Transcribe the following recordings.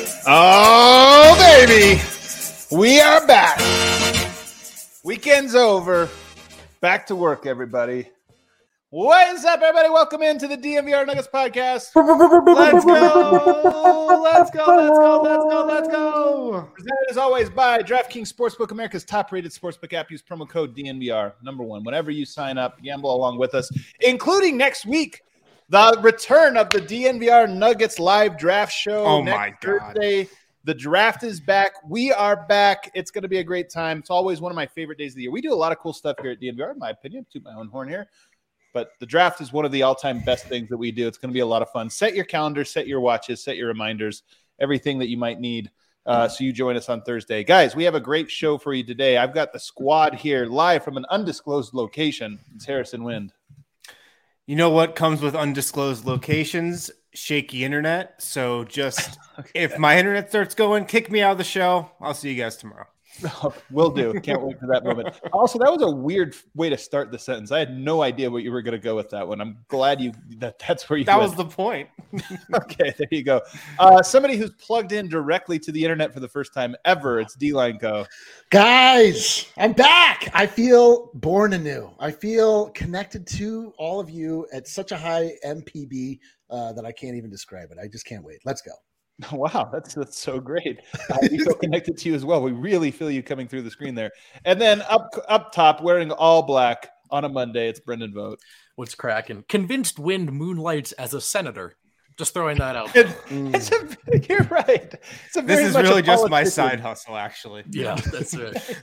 Oh, baby. We are back. Weekend's over. Back to work, everybody. What is up, everybody? Welcome into the DNVR Nuggets podcast. Let's go. Let's go. Let's go. Let's go. Let's go. Presented as always by DraftKings Sportsbook, America's top-rated sportsbook app. Use promo code DNVR, #1. Whenever you sign up, gamble along with us, including next week, the return of the DNVR Nuggets live draft show. Oh, next my God. Thursday. The draft is back. We are back. It's going to be a great time. It's always one of my favorite days of the year. We do a lot of cool stuff here at DNVR, in my opinion. Toot my own horn here. But the draft is one of the all-time best things that we do. It's going to be a lot of fun. Set your calendar, set your watches, set your reminders, everything that you might need. So you join us on Thursday. Guys, we have a great show for you today. I've got the squad here live from an undisclosed location. It's Harrison Wind. You know what comes with undisclosed locations? Shaky internet. So just if my internet starts going, kick me out of the show. I'll see you guys tomorrow. Will do. Can't wait for that moment. Also, that was a weird way to start the sentence. I had no idea what you were going to go with that one. I'm glad that's where you That went. was the point. Okay, there you go. Somebody who's plugged in directly to the internet for the first time ever. It's D-Line Co. Guys, I'm back. I feel born anew. I feel connected to all of you at such a high MPB that I can't even describe it. I just can't wait. Let's go. Wow, that's so great. We feel connected to you as well. We really feel you coming through the screen there. And then up top, wearing all black on a Monday, it's Brendan Vogt. What's cracking? Convinced Wind moonlights as a senator. Just throwing that out. You're right. This is really just my side hustle, actually. Yeah, that's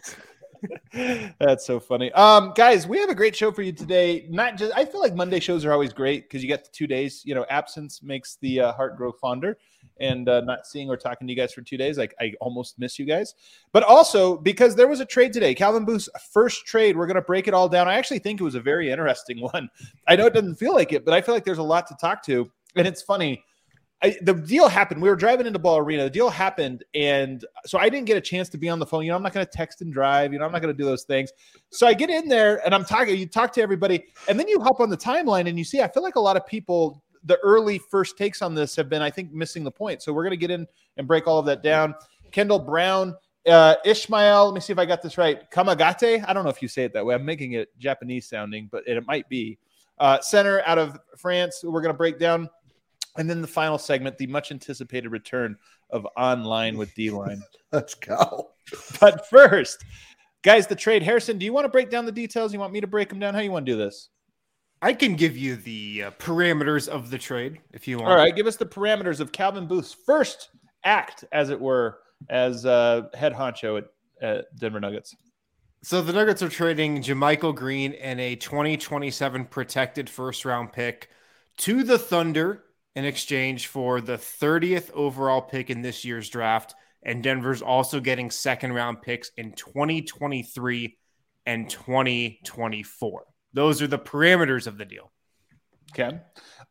right. That's so funny. Guys, we have a great show for you today. I feel like Monday shows are always great because you get the 2 days. You know, absence makes the heart grow fonder. And not seeing or talking to you guys for 2 days, I almost miss you guys. But also because there was a trade today, Calvin Booth's first trade. We're going to break it all down. I actually think it was a very interesting one. I know it doesn't feel like it, but I feel like there's a lot to talk to. And it's funny. The deal happened. We were driving into Ball Arena. The deal happened. And so I didn't get a chance to be on the phone. You know, I'm not going to text and drive. You know, I'm not going to do those things. So I get in there and you talk to everybody. And then you hop on the timeline and you see, I feel like a lot of people, the early first takes on this have been, I think, missing the point. So we're going to get in and break all of that down. Kendall Brown, Ishmael, let me see if I got this right. Kamagate. I don't know if you say it that way. I'm making it Japanese sounding, but it might be. Center out of France, we're going to break down. And then the final segment, the much anticipated return of Online with D-Line. Let's go. But first, guys, the trade. Harrison, do you want to break down the details? You want me to break them down? How you want to do this? I can give you the parameters of the trade if you want. All right, give us the parameters of Calvin Booth's first act, as it were, as head honcho at Denver Nuggets. So the Nuggets are trading JaMychal Green and a 2027 protected first-round pick to the Thunder in exchange for the 30th overall pick in this year's draft. And Denver's also getting second-round picks in 2023 and 2024. Those are the parameters of the deal. Okay.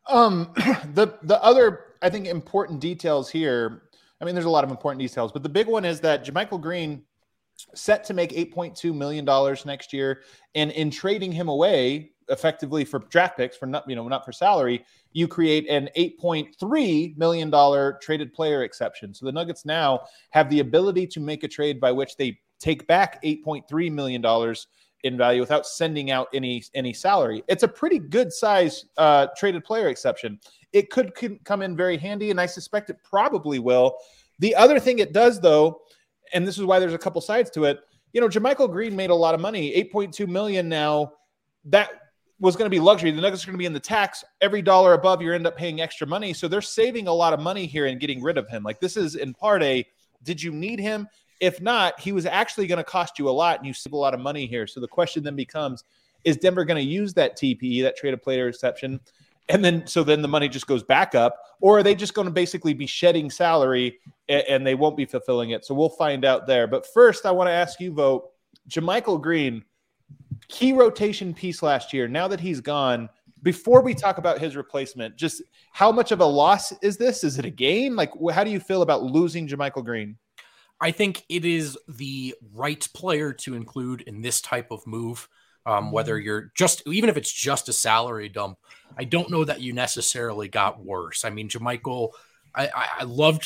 The other, I think, important details here, I mean, there's a lot of important details, but the big one is that JaMychal Green set to make $8.2 million next year. And in trading him away effectively for draft picks, for not for salary, you create an $8.3 million traded player exception. So the Nuggets now have the ability to make a trade by which they take back $8.3 million in value without sending out any salary. It's a pretty good size traded player exception. It could come in very handy, and I suspect it probably will. The other thing it does, though, and this is why there's a couple sides to it, JaMychal Green made a lot of money, $8.2 million now. That was going to be luxury. The Nuggets are going to be in the tax. Every dollar above, you end up paying extra money. So they're saving a lot of money here and getting rid of him. Like, this is in part did you need him? If not, he was actually going to cost you a lot, and you save a lot of money here. So the question then becomes, is Denver going to use that TPE, that traded player exception, and then the money just goes back up, or are they just going to basically be shedding salary and they won't be fulfilling it? So we'll find out there. But first, I want to ask you, Vogt, JaMychal Green, key rotation piece last year. Now that he's gone, before we talk about his replacement, just how much of a loss is this? Is it a gain? Like, how do you feel about losing JaMychal Green? I think it is the right player to include in this type of move. Whether you're even if it's just a salary dump, I don't know that you necessarily got worse. I mean, JaMychal, I loved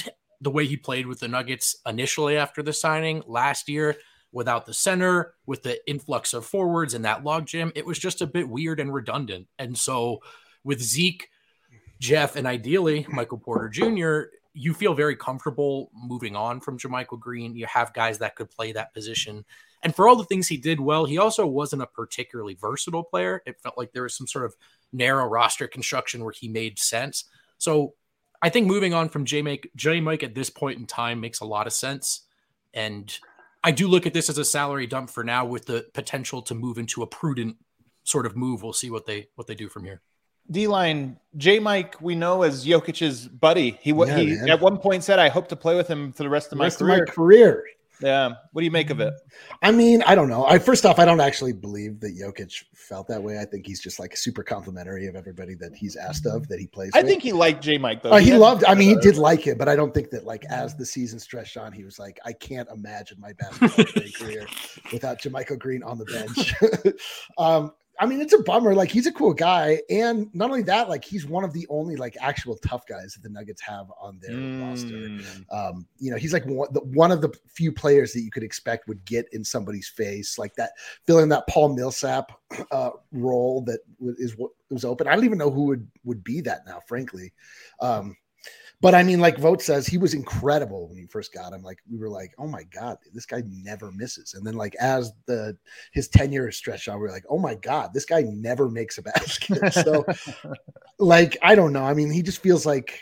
the way he played with the Nuggets initially after the signing last year, without the center, with the influx of forwards and that logjam, it was just a bit weird and redundant. And so with Zeke, Jeff, and ideally Michael Porter Jr., you feel very comfortable moving on from JaMychal Green. You have guys that could play that position. And for all the things he did well, he also wasn't a particularly versatile player. It felt like there was some sort of narrow roster construction where he made sense. So I think moving on from J-Mike at this point in time makes a lot of sense. And I do look at this as a salary dump for now with the potential to move into a prudent sort of move. We'll see what they do from here. D-line, J-Mike, we know as Jokic's buddy. He at one point said, I hope to play with him for the rest of my career. Yeah. What do you make of it? I mean, I don't know. First off, I don't actually believe that Jokic felt that way. I think he's just like super complimentary of everybody that he's asked of that he plays with. I think he liked J-Mike though. He did like it, but I don't think that like as the season stretched on, he was like, I can't imagine my basketball career without JaMychal Green on the bench. I mean, it's a bummer. Like, he's a cool guy. And not only that, like, he's one of the only, like, actual tough guys that the Nuggets have on their roster. He's like one of the few players that you could expect would get in somebody's face, like that, filling that Paul Millsap role that is what was open. I don't even know who would be that now, frankly. But I mean, like Vogt says, he was incredible when you first got him. Like, we were like, oh my God, this guy never misses. And then like as his tenure stretched out, we were like, oh my God, this guy never makes a basket. So like, I don't know. I mean, he just feels like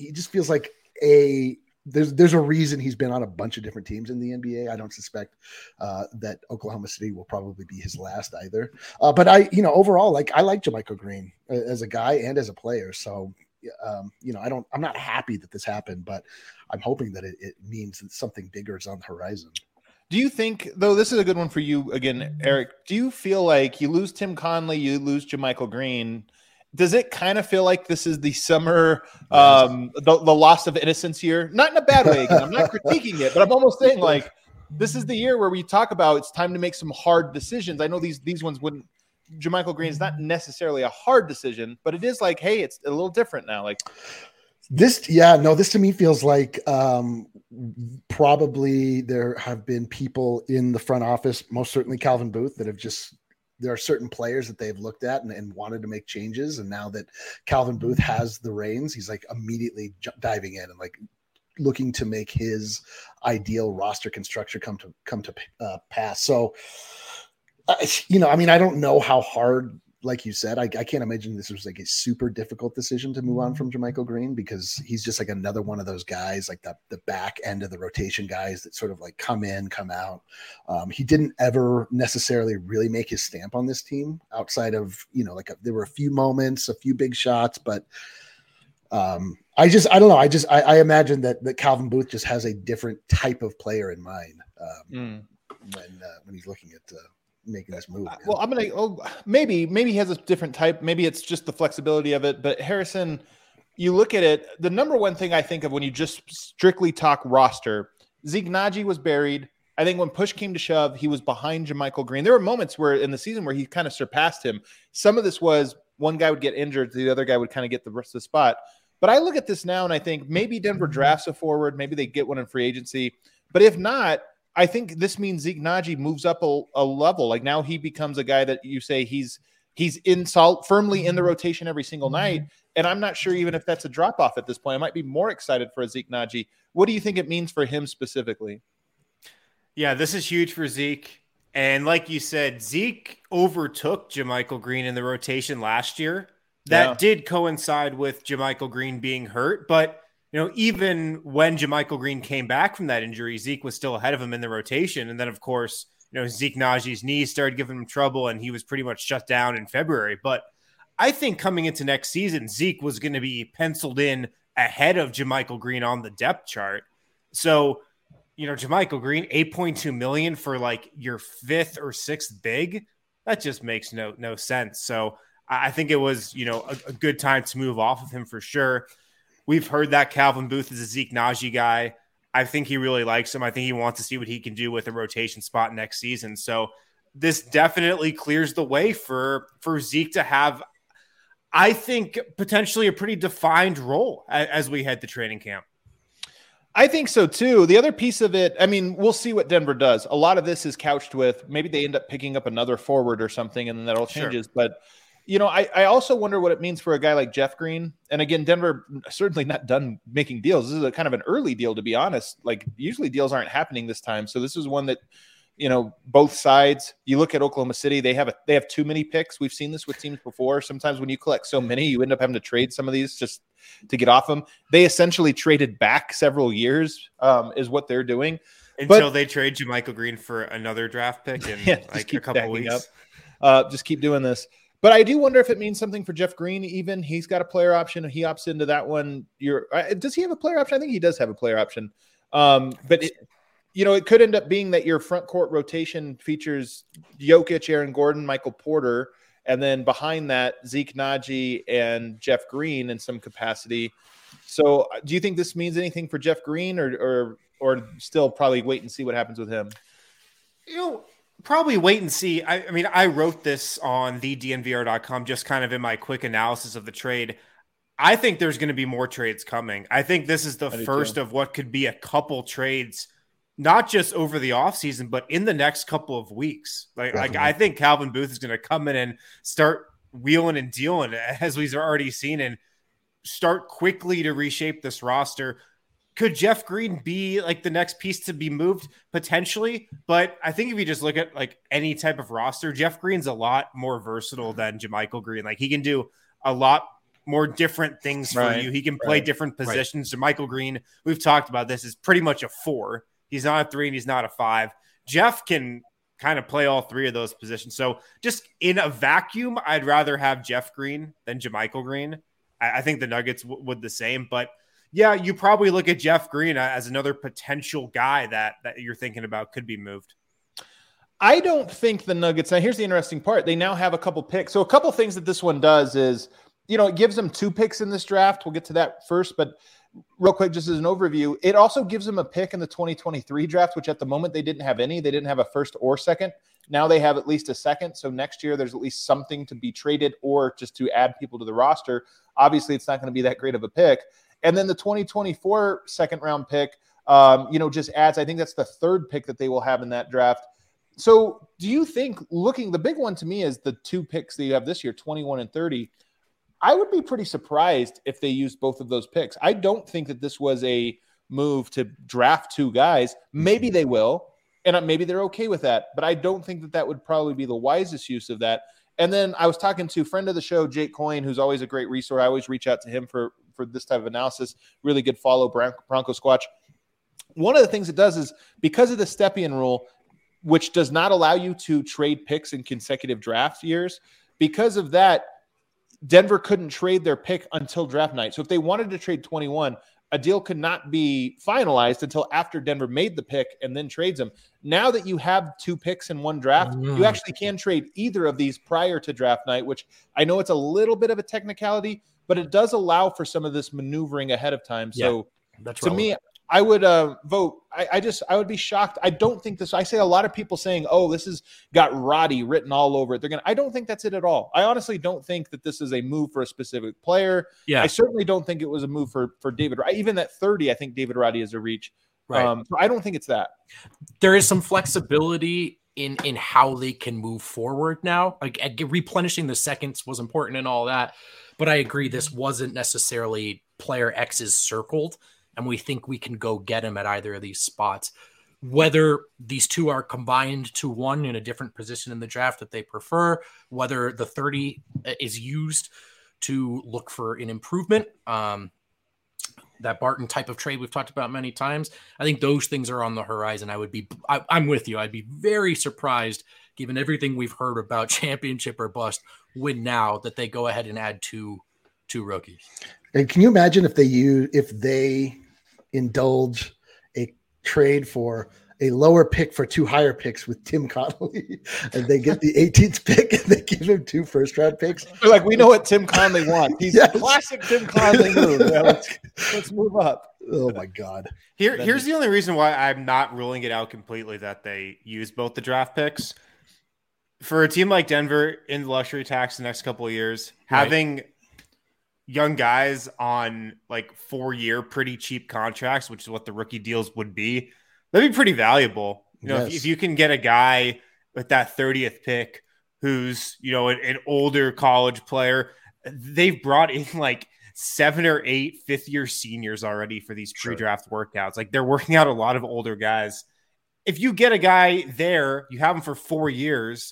there's a reason he's been on a bunch of different teams in the NBA. I don't suspect that Oklahoma City will probably be his last either. But overall, like, I like JaMychal Green as a guy and as a player. So, I'm not happy that this happened, but I'm hoping that it means that something bigger is on the horizon. Do you think, though, this is a good one for you again, Eric, do you feel like you lose Tim Conley, you lose JaMychal Green? Does it kind of feel like this is the summer, the loss of innocence year? Not in a bad way. Again, I'm not critiquing it, but I'm almost saying like, this is the year where we talk about it's time to make some hard decisions. I know these ones wouldn't. JaMychal Green is not necessarily a hard decision, but it is like, hey, it's a little different now. Like this to me feels like probably there have been people in the front office, most certainly Calvin Booth, that have there are certain players that they've looked at and wanted to make changes. And now that Calvin Booth has the reins, he's like immediately diving in and like looking to make his ideal roster construction come to pass. So, I mean, I don't know how hard, like you said, I can't imagine this was like a super difficult decision to move on from JaMychal Green, because he's just like another one of those guys, like the back end of the rotation guys that sort of like come in, come out. He didn't ever necessarily really make his stamp on this team outside of, there were a few moments, a few big shots, but I don't know. I imagine that Calvin Booth just has a different type of player in mind when he's looking at making this move. Well, maybe he has a different type. Maybe it's just the flexibility of it. But Harrison, you look at it, the number one thing I think of when you just strictly talk roster, Zeke Nnaji was buried. I think when push came to shove, he was behind JaMychal Green. There were moments where in the season where he kind of surpassed him. Some of this was one guy would get injured, the other guy would kind of get the rest of the spot. But I look at this now and I think maybe Denver drafts a forward, maybe they get one in free agency. But if not, I think this means Zeke Nnaji moves up a level. Like now he becomes a guy that you say he's firmly in the rotation every single night. And I'm not sure even if that's a drop off at this point. I might be more excited for a Zeke Nnaji. What do you think it means for him specifically? Yeah, this is huge for Zeke. And like you said, Zeke overtook JaMychal Green in the rotation last year. That did coincide with JaMychal Green being hurt, but even when JaMychal Green came back from that injury, Zeke was still ahead of him in the rotation. And then, of course, Zeke Nnaji's knees started giving him trouble, and he was pretty much shut down in February. But I think coming into next season, Zeke was going to be penciled in ahead of JaMychal Green on the depth chart. So, JaMychal Green, $8.2 million for like your fifth or sixth big, that just makes no sense. So I think it was, a good time to move off of him for sure. We've heard that Calvin Booth is a Zeke Nnaji guy. I think he really likes him. I think he wants to see what he can do with a rotation spot next season. So this definitely clears the way for Zeke to have, I think, potentially a pretty defined role as we head to training camp. I think so too. The other piece of it, I mean, we'll see what Denver does. A lot of this is couched with maybe they end up picking up another forward or something, and then that all changes. Sure. But, I also wonder what it means for a guy like Jeff Green. And again, Denver certainly not done making deals. This is a kind of an early deal, to be honest. Like usually deals aren't happening this time. So this is one that, both sides. You look at Oklahoma City, they have too many picks. We've seen this with teams before. Sometimes when you collect so many, you end up having to trade some of these just to get off them. They essentially traded back several years, is what they're doing until they trade JaMychal Green for another draft pick in like a couple weeks. Just keep doing this. But I do wonder if it means something for Jeff Green. Even he's got a player option. He opts into that one. Does he have a player option? I think he does have a player option. But it could end up being that your front court rotation features Jokic, Aaron Gordon, Michael Porter, and then behind that, Zeke Naji and Jeff Green in some capacity. So do you think this means anything for Jeff Green or still probably wait and see what happens with him? Probably wait and see. I mean, I wrote this on thednvr.com, just kind of in my quick analysis of the trade. I think there's going to be more trades coming. I think this is the first of what could be a couple trades, not just over the offseason, but in the next couple of weeks. Like I think Calvin Booth is going to come in and start wheeling and dealing, as we've already seen, and start quickly to reshape this roster. Could Jeff Green be like the next piece to be moved? Potentially. But I think if you just look at like any type of roster, Jeff Green's a lot more versatile than JaMychal Green. Like he can do a lot more different things for you. He can play different positions. JaMychal Green, we've talked about this, is pretty much a 4. He's not a 3 and he's not a 5. Jeff can kind of play all 3 of those positions. So just in a vacuum, I'd rather have Jeff Green than JaMychal Green. I think the Nuggets would the same. But yeah, you probably look at Jeff Green as another potential guy that you're thinking about could be moved. I don't think the Nuggets. Now, here's the interesting part. They now have a couple picks. So a couple things that this one does is, it gives them 2 picks in this draft. We'll get to that first. But real quick, just as an overview, it also gives them a pick in the 2023 draft, which at the moment they didn't have any. They didn't have a first or second. Now they have at least a second. So next year there's at least something to be traded or just to add people to the roster. Obviously, it's not going to be that great of a pick. And then the 2024 second round pick, just adds, I think that's the 3rd pick that they will have in that draft. So do you think, the big one to me is the 2 picks that you have this year, 21 and 30. I would be pretty surprised if they used both of those picks. I don't think that this was a move to draft 2 guys. Maybe they will, and maybe they're okay with that. But I don't think that would probably be the wisest use of that. And then I was talking to a friend of the show, Jake Coyne, who's always a great resource. I always reach out to him for this type of analysis. Really good follow, Bronco Squatch. One of the things it does is because of the Stepien rule, which does not allow you to trade picks in consecutive draft years, because of that, Denver couldn't trade their pick until draft night. So if they wanted to trade 21, a deal could not be finalized until after Denver made the pick and then trades them. Now that you have 2 picks in one draft, you actually can trade either of these prior to draft night, which I know it's a little bit of a technicality, but it does allow for some of this maneuvering ahead of time. So that's to me, I would vote. I would be shocked. I don't think this. I say a lot of people saying, "Oh, this has got Roddy written all over it." I don't think that's it at all. I honestly don't think that this is a move for a specific player. Yeah. I certainly don't think it was a move for David. Even at 30, I think David Roddy is a reach. Right. So I don't think it's that. There is some flexibility in how they can move forward now. Like replenishing the seconds was important and all that, but I agree this wasn't necessarily player X is circled, and we think we can go get him at either of these spots. Whether these 2 are combined to 1 in a different position in the draft that they prefer, whether the 30 is used to look for an improvement, that Barton type of trade we've talked about many times, I think those things are on the horizon. I'm with you. I'd be very surprised, given everything we've heard about championship or bust, win now, that they go ahead and add two rookies. And can you imagine if they indulge a trade for a lower pick for 2 higher picks with Tim Connolly, and they get the 18th pick and they give him 2 first-round picks? They're like, we know what Tim Connolly wants. He's a classic Tim Connolly move. Yeah, let's move up. Oh my God. Here's the only reason why I'm not ruling it out completely that they use both the draft picks. For a team like Denver in the luxury tax the next couple of years, having young guys on like 4-year pretty cheap contracts, which is what the rookie deals would be, that'd be pretty valuable. You know, if you can get a guy with that 30th pick who's, you know, an older college player, they've brought in like 7 or 8 fifth-year seniors already for these pre-draft workouts. Like they're working out a lot of older guys. If you get a guy there, you have him for 4 years.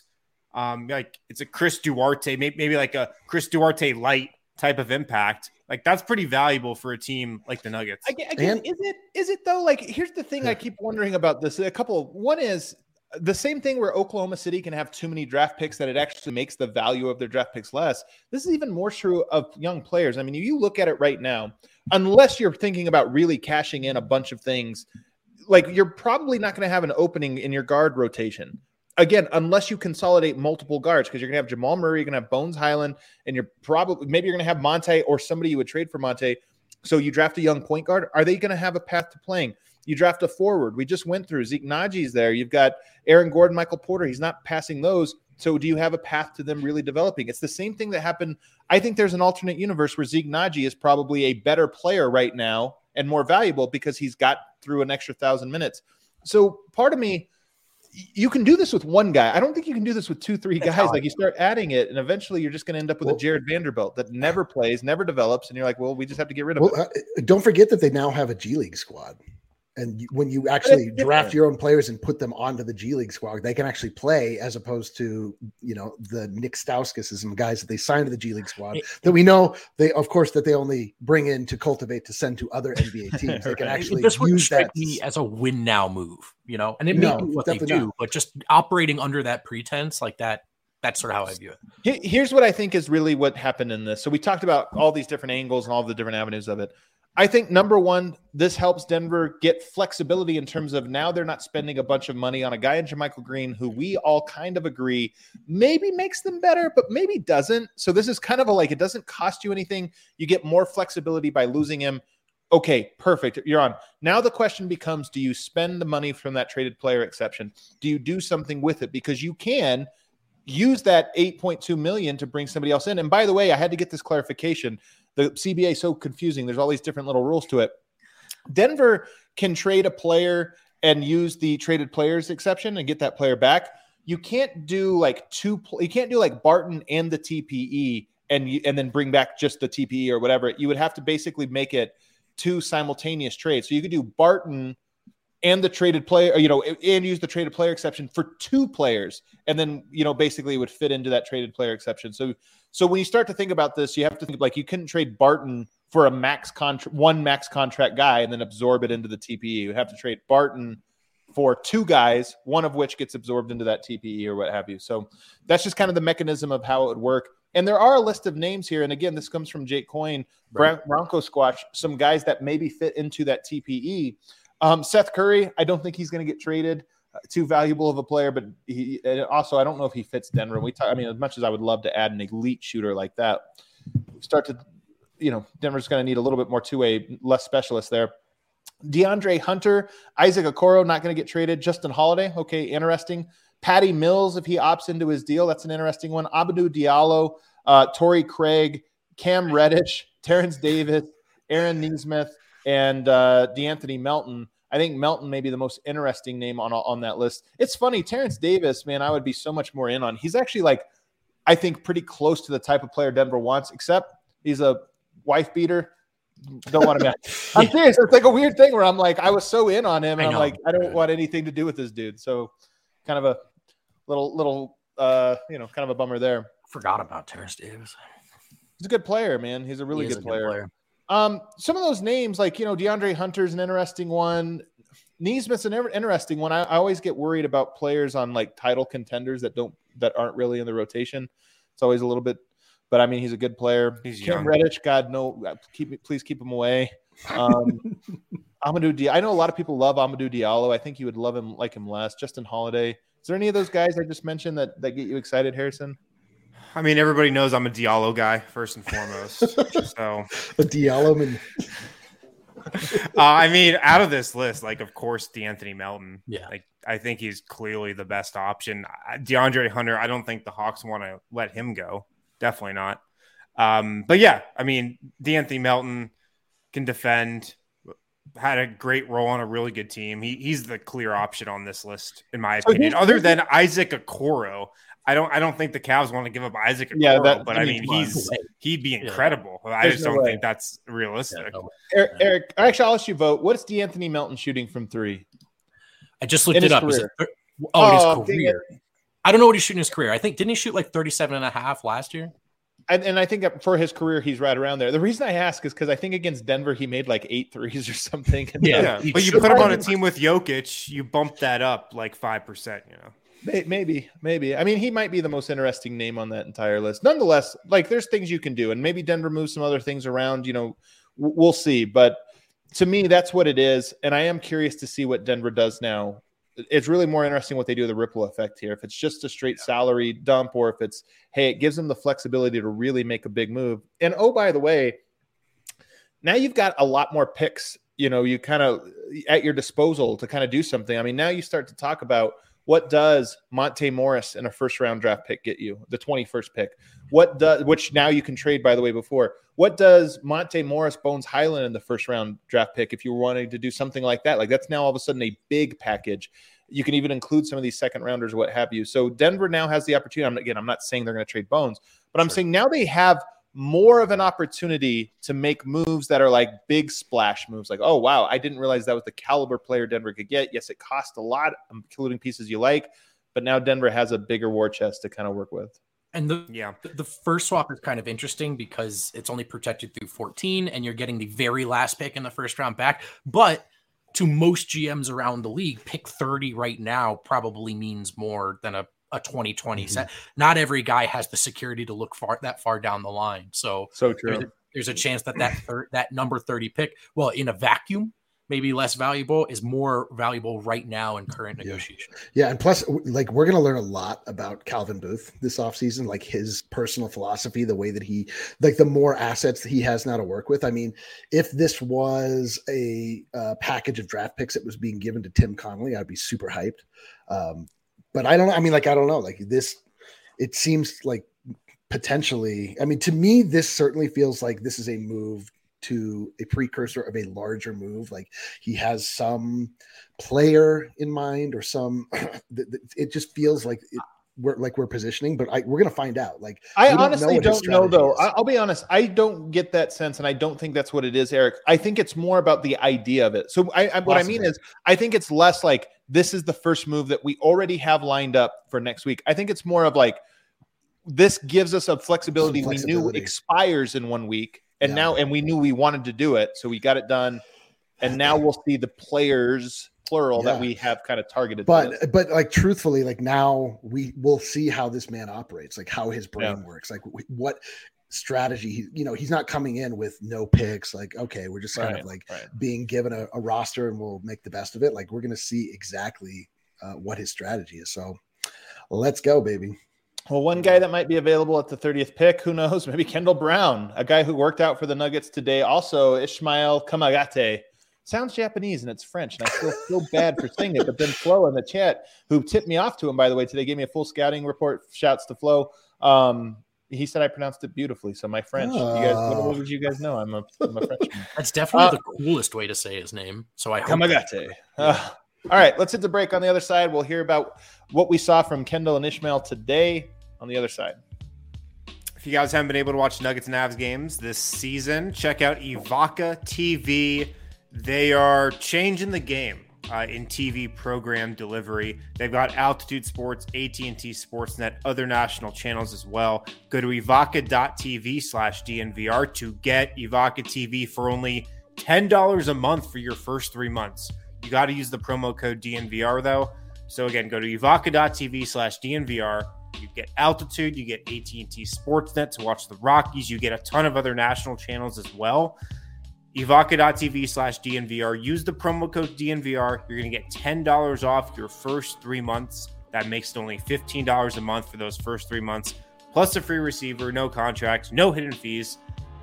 Like it's a Chris Duarte, maybe like a Chris Duarte light type of impact. Like that's pretty valuable for a team like the Nuggets. Again, is it though? Like here's the thing I keep wondering about this. One is the same thing where Oklahoma City can have too many draft picks that it actually makes the value of their draft picks less. This is even more true of young players. I mean, you look at it right now, unless you're thinking about really cashing in a bunch of things, like you're probably not going to have an opening in your guard rotation. Again, unless you consolidate multiple guards, because you're going to have Jamal Murray, you're going to have Bones Highland, and maybe you're going to have Monte or somebody you would trade for Monte. So you draft a young point guard. Are they going to have a path to playing? You draft a forward. We just went through Zeke Naji's there. You've got Aaron Gordon, Michael Porter. He's not passing those. So do you have a path to them really developing? It's the same thing that happened. I think there's an alternate universe where Zeke Naji is probably a better player right now and more valuable because he's got through an extra 1,000 minutes. So part of me, you can do this with one guy. I don't think you can do this with 2-3 guys. Like you start adding it, and eventually you're just going to end up with a Jared Vanderbilt that never plays, never develops, and you're like, well, we just have to get rid of it. Don't forget that they now have a G League squad. And when you actually draft your own players and put them onto the G League squad, they can actually play as opposed to, you know, the Nick Stauskas and guys that they signed to the G League squad that we know they only bring in to cultivate to send to other NBA teams. They can actually this would use strike that me as a win now move, you know, and it may be what they do, but just operating under that pretense like that. That's sort of how I view it. Here's what I think is really what happened in this. So we talked about all these different angles and all the different avenues of it. I think number one, this helps Denver get flexibility in terms of now they're not spending a bunch of money on a guy in JaMychal Green who we all kind of agree maybe makes them better, but maybe doesn't. So this is kind of it doesn't cost you anything. You get more flexibility by losing him. Okay, perfect. You're on. Now the question becomes, do you spend the money from that traded player exception? Do you do something with it? Because you can use that $8.2 million to bring somebody else in. And by the way, I had to get this clarification. The CBA is so confusing. There's all these different little rules to it. Denver can trade a player and use the traded players exception and get that player back. You can't do you can't do like Barton and the TPE and then bring back just the TPE or whatever. You would have to basically make it 2 simultaneous trades. So you could do Barton and the traded player, and use the traded player exception for 2 players. And then, basically it would fit into that traded player exception. So when you start to think about this, you have to think like you couldn't trade Barton for one max contract guy and then absorb it into the TPE. You have to trade Barton for 2 guys, one of which gets absorbed into that TPE or what have you. So that's just kind of the mechanism of how it would work. And there are a list of names here. And again, this comes from Jake Coyne, Bronco Squatch, some guys that maybe fit into that TPE. Seth Curry, I don't think he's going to get traded. Too valuable of a player, but I don't know if he fits Denver. As much as I would love to add an elite shooter like that, Denver's going to need a little bit more two-way, less specialist there. DeAndre Hunter, Isaac Okoro, not going to get traded. Justin Holiday, okay, interesting. Patty Mills, if he opts into his deal, that's an interesting one. Amadou Diallo, Torrey Craig, Cam Reddish, Terrence Davis, Aaron Nesmith, and DeAnthony Melton. I think Melton may be the most interesting name on that list. It's funny, Terrence Davis, man, I would be so much more in on. He's actually I think pretty close to the type of player Denver wants, except he's a wife beater. Don't want him. I'm serious. It's like a weird thing where I'm like, I was so in on him, and I'm like, I don't want anything to do with this dude. So kind of a little kind of a bummer there. Forgot about Terrence Davis. He's a good player, man. He's a really good player. Some of those names, DeAndre Hunter's an interesting one. Nesmith's an interesting one. I always get worried about players on title contenders that aren't really in the rotation. It's always a little bit, but he's a good player. He's Cam young. Reddish, God no, please keep him away. Amadou Diallo. I know a lot of people love Amadou Diallo. I think you would love him, like him less. Justin Holiday. Is there any of those guys I just mentioned that get you excited, Harrison? Everybody knows I'm a Diallo guy first and foremost. So a Diallo man. Out of this list, of course, DeAnthony Melton. Yeah. I think he's clearly the best option. DeAndre Hunter, I don't think the Hawks want to let him go. Definitely not. But yeah, I mean, De'Anthony Melton can defend, had a great role on a really good team. He's the clear option on this list, in my opinion. Other than Isaac Okoro, I don't think the Cavs want to give up Isaac Okoro, but I mean, he'd be incredible. Yeah. I just don't think that's realistic. Eric, actually, I'll let you vote. What's De'Anthony Melton shooting from three? I just looked it up. His career. I don't know what he's shooting in his career. I think, didn't he shoot like 37.5 last year? And I think for his career, he's right around there. The reason I ask is because I think against Denver, he made like 8 threes or something. Yeah. But you put him on a team with Jokic, you bump that up like 5%, you know? Maybe. I mean, he might be the most interesting name on that entire list. Nonetheless, like there's things you can do, and maybe Denver moves some other things around, you know, we'll see. But to me, that's what it is. And I am curious to see what Denver does now. It's really more interesting what they do with the ripple effect here. If it's just a straight salary dump, or if it's, hey, it gives them the flexibility to really make a big move. And oh, by the way, now you've got a lot more picks, you know, you kind of at your disposal to kind of do something. I mean, now you start to talk about what does Monte Morris in a first round draft pick get you, the 21st pick? Which now you can trade, by the way, before. What does Monte Morris, Bones Highland in the first round draft pick if you were wanting to do something like that? Like that's now all of a sudden a big package. You can even include some of these second rounders or what have you. So Denver now has the opportunity. I'm not saying they're going to trade Bones, but I'm saying now they have more of an opportunity to make moves that are like big splash moves. Like, oh, wow, I didn't realize that was the caliber player Denver could get. Yes, it cost a lot, including pieces you like, but now Denver has a bigger war chest to kind of work with. And the first swap is kind of interesting because it's only protected through 14 and you're getting the very last pick in the first round back. But to most GMs around the league, pick 30 right now probably means more than a 2020 set. Not every guy has the security to look that far down the line. So true. There's a chance that number 30 pick, well, in a vacuum, maybe less valuable, is more valuable right now in current negotiation. Yeah. And plus, like, we're going to learn a lot about Calvin Booth this offseason, like his personal philosophy, the way that he, like the more assets that he has now to work with. I mean, if this was a package of draft picks that was being given to Tim Connolly, I'd be super hyped. But I don't know. I mean, like, I don't know, like this, it seems like potentially, I mean, to me, this certainly feels like this is a move to a precursor of a larger move. Like he has some player in mind or some, it just feels like we're positioning, but we're going to find out. Like, I honestly don't know though. I'll be honest. I don't get that sense. And I don't think that's what it is, Eric. I think it's more about the idea of it. So what I mean is I think it's less like this is the first move that we already have lined up for next week. I think it's more of like, this gives us a flexibility we knew expires in 1 week. And we knew we wanted to do it, so we got it done. And now we'll see the players, plural, that we have kind of targeted. But like truthfully, like now we will see how this man operates, like how his brain works, like what strategy. He's not coming in with no picks. Like, okay, we're just kind of like being given a roster and we'll make the best of it. Like we're going to see exactly what his strategy is. So let's go, baby. Well, one guy that might be available at the 30th pick, who knows? Maybe Kendall Brown, a guy who worked out for the Nuggets today. Also, Ishmael Kamagate. Sounds Japanese and it's French, and I still feel bad for saying it. But then Flo in the chat, who tipped me off to him, by the way, today, gave me a full scouting report. Shouts to Flo. He said I pronounced it beautifully. So my French, you guys know I'm a Frenchman. That's definitely the coolest way to say his name. So I hope Kamagate. All right, let's hit the break. On the other side, we'll hear about what we saw from Kendall and Ishmael today on the other side. If you guys haven't been able to watch Nuggets and Avs games this season, check out Evoca TV. They are changing the game in TV program delivery. They've got Altitude Sports, AT&T Sportsnet, other national channels as well. Go to evoca.tv/DNVR to get Evoca TV for only $10 a month for your first 3 months. You got to use the promo code DNVR, though. So, again, go to evoca.tv/DNVR. You get Altitude. You get AT&T Sportsnet to watch the Rockies. You get a ton of other national channels as well. Evoca.tv/DNVR. Use the promo code DNVR. You're going to get $10 off your first 3 months. That makes it only $15 a month for those first 3 months. Plus a free receiver, no contract, no hidden fees.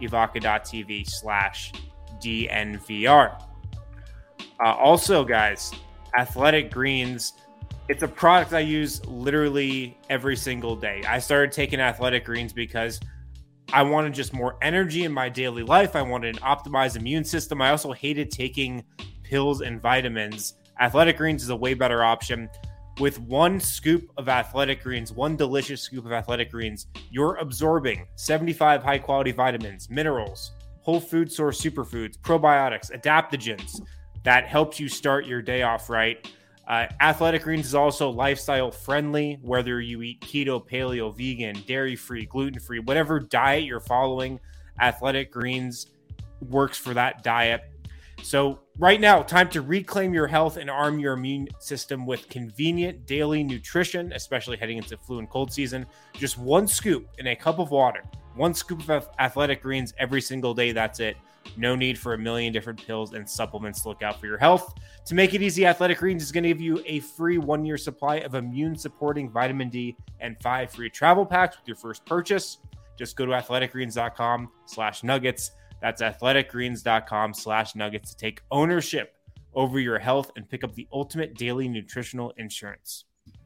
Evoca.tv/DNVR. Also, guys, Athletic Greens, it's a product I use literally every single day. I started taking Athletic Greens because I wanted just more energy in my daily life. I wanted an optimized immune system. I also hated taking pills and vitamins. Athletic Greens is a way better option. With one scoop of Athletic Greens, one delicious scoop of Athletic Greens, you're absorbing 75 high-quality vitamins, minerals, whole food source superfoods, probiotics, adaptogens that helps you start your day off right. Athletic Greens is also lifestyle friendly, whether you eat keto, paleo, vegan, dairy-free, gluten-free, whatever diet you're following, Athletic Greens works for that diet. So right now, time to reclaim your health and arm your immune system with convenient daily nutrition, especially heading into flu and cold season. Just one scoop in a cup of water, one scoop of Athletic Greens every single day. That's it. No need for a million different pills and supplements to look out for your health. To make it easy, Athletic Greens is going to give you a free 1-year supply of immune-supporting vitamin D and 5 free travel packs with your first purchase. Just go to athleticgreens.com/nuggets. That's athleticgreens.com/nuggets to take ownership over your health and pick up the ultimate daily nutritional insurance.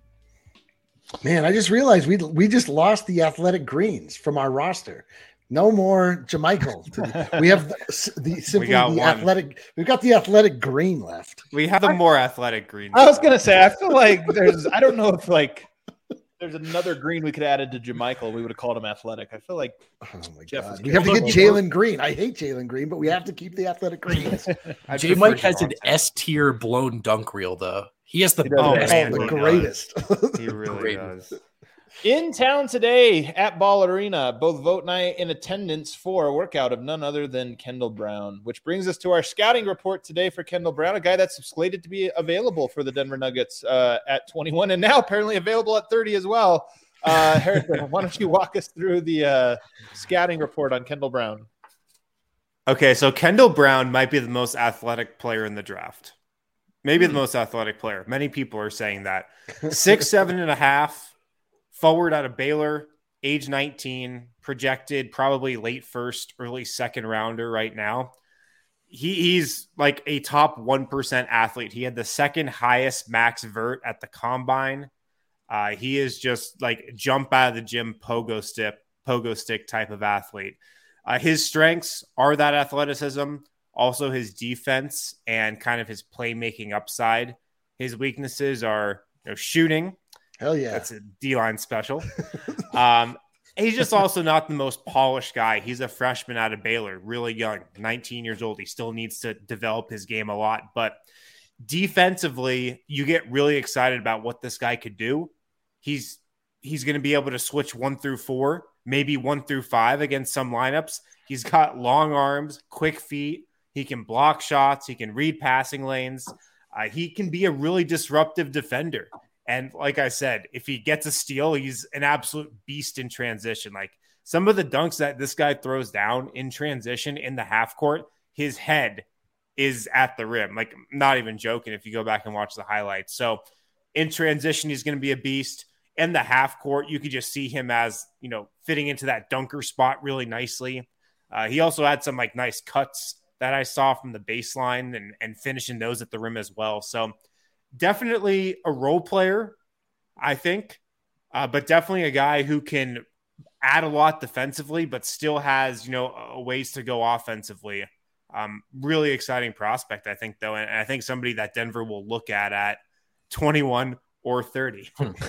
Man, I just realized we just lost the Athletic Greens from our roster. No more Jamichael. We have We've got the Athletic Green left. We have the more Athletic Green. I was gonna say, I feel like I don't know if there's another green we could have added to Jamichael. We would have called him Athletic. I feel like, oh my God, we have to get Jalen Green. I hate Jalen Green, but we have to keep the Athletic Greens. J Mike has an S tier blown dunk reel though. He has the greatest. He really does. In town today at Ball Arena, both Vote and I in attendance for a workout of none other than Kendall Brown, which brings us to our scouting report today for Kendall Brown, a guy that's slated to be available for the Denver Nuggets at 21 and now apparently available at 30 as well. Harrison, why don't you walk us through the scouting report on Kendall Brown? Okay, so Kendall Brown might be the most athletic player in the draft. Maybe the most athletic player. Many people are saying that. 6'7.5". Forward out of Baylor, age 19, projected probably late first, early second rounder right now. He's like a top 1% athlete. He had the second highest max vert at the combine. He is just like jump out of the gym pogo stick type of athlete. His strengths are that athleticism, also his defense and kind of his playmaking upside. His weaknesses are shooting. Hell yeah. That's a D-line special. He's just also not the most polished guy. He's a freshman out of Baylor, really young, 19 years old. He still needs to develop his game a lot. But defensively, you get really excited about what this guy could do. He's going to be able to switch 1 through 4, maybe 1 through 5 against some lineups. He's got long arms, quick feet. He can block shots. He can read passing lanes. He can be a really disruptive defender. And like I said, if he gets a steal, he's an absolute beast in transition. Like some of the dunks that this guy throws down in transition in the half court, his head is at the rim. Like, I'm not even joking if you go back and watch the highlights. So in transition, he's going to be a beast. In the half court, you could just see him as, fitting into that dunker spot really nicely. He also had some like nice cuts that I saw from the baseline and finishing those at the rim as well. So definitely a role player, I think, but definitely a guy who can add a lot defensively, but still has, ways to go offensively. Really exciting prospect, I think, though. And I think somebody that Denver will look at 21 or 30.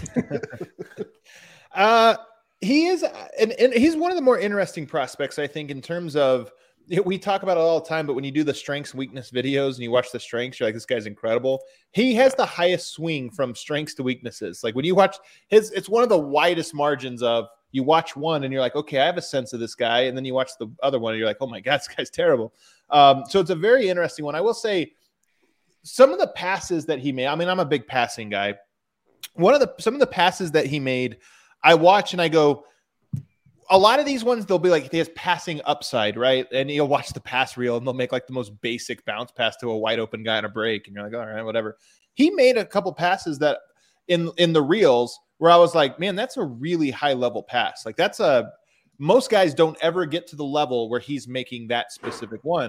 He is, and he's one of the more interesting prospects, I think, in terms of, we talk about it all the time, but when you do the strengths weakness videos and you watch the strengths, you're like, this guy's incredible. He has the highest swing from strengths to weaknesses. Like when you watch it's one of the widest margins of, you watch one and you're like, okay, I have a sense of this guy. And then you watch the other one and you're like, oh my God, this guy's terrible. So it's a very interesting one. I will say some of the passes that he made, I'm a big passing guy. Some of the passes that he made, I watch and I go, a lot of these ones, they'll be like, he has passing upside, right? And you'll watch the pass reel and they'll make like the most basic bounce pass to a wide open guy on a break. And you're like, all right, whatever. He made a couple passes that in the reels where I was like, man, that's a really high level pass. Like most guys don't ever get to the level where he's making that specific one.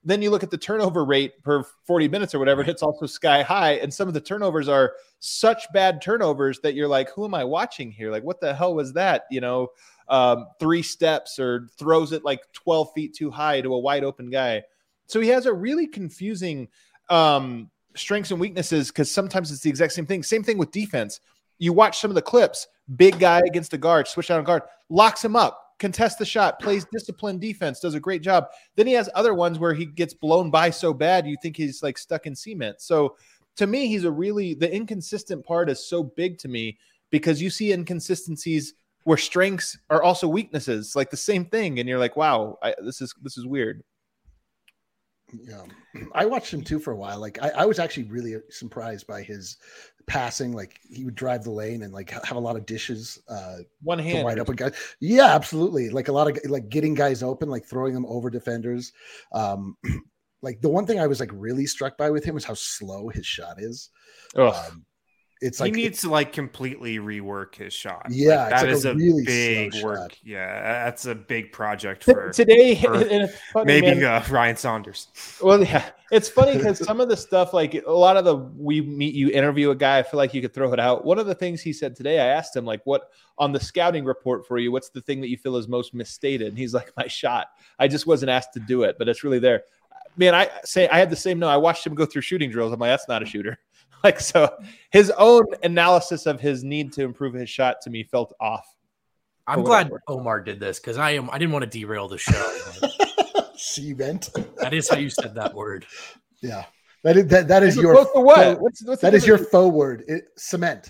then you look at the turnover rate per 40 minutes or whatever, it's also sky high. And some of the turnovers are such bad turnovers that you're like, who am I watching here? Like, what the hell was that? 3 steps or throws it like 12 feet too high to a wide open guy. So he has a really confusing strengths and weaknesses, because sometimes it's the exact same thing. Same thing with defense. You watch some of the clips, big guy against a guard, switch out on guard, locks him up, contests the shot, plays disciplined defense, does a great job. Then he has other ones where he gets blown by so bad you think he's like stuck in cement. So to me, he's the inconsistent part is so big to me, because you see inconsistencies where strengths are also weaknesses, like the same thing. And you're like, wow, this is weird. Yeah, I watched him too for a while. Like I was actually really surprised by his passing. Like he would drive the lane and like have a lot of dishes. One hand, wide open guys. Yeah, absolutely. Like a lot of like getting guys open, like throwing them over defenders. Like the one thing I was like really struck by with him is how slow his shot is. It's like he needs to like completely rework his shot. Yeah, like, that is a really big work. Shot. Yeah, that's a big project for today. Maybe Ryan Saunders. Well, yeah, it's funny because some of the stuff, like a lot of the you interview a guy, I feel like you could throw it out. One of the things he said today, I asked him like, what on the scouting report for you, what's the thing that you feel is most misstated? And he's like, my shot. I just wasn't asked to do it, but it's really there. Man, I had the same. No, I watched him go through shooting drills. I'm like, that's not a shooter. Like, so his own analysis of his need to improve his shot to me felt off. I'm glad Omar did this, because I didn't want to derail the show. Cement. That is how you said that word. Yeah. That is your what? That is your faux word. Cement.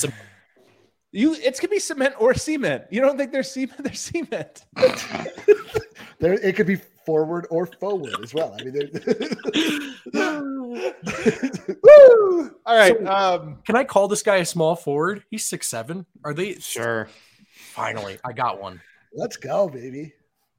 It could be cement or cement. You don't think there's cement? There's cement. It could be forward or forward as well. I mean, woo! All right. So, can I call this guy a small forward? He's 6'7". Are they sure? Finally, I got one. Let's go, baby.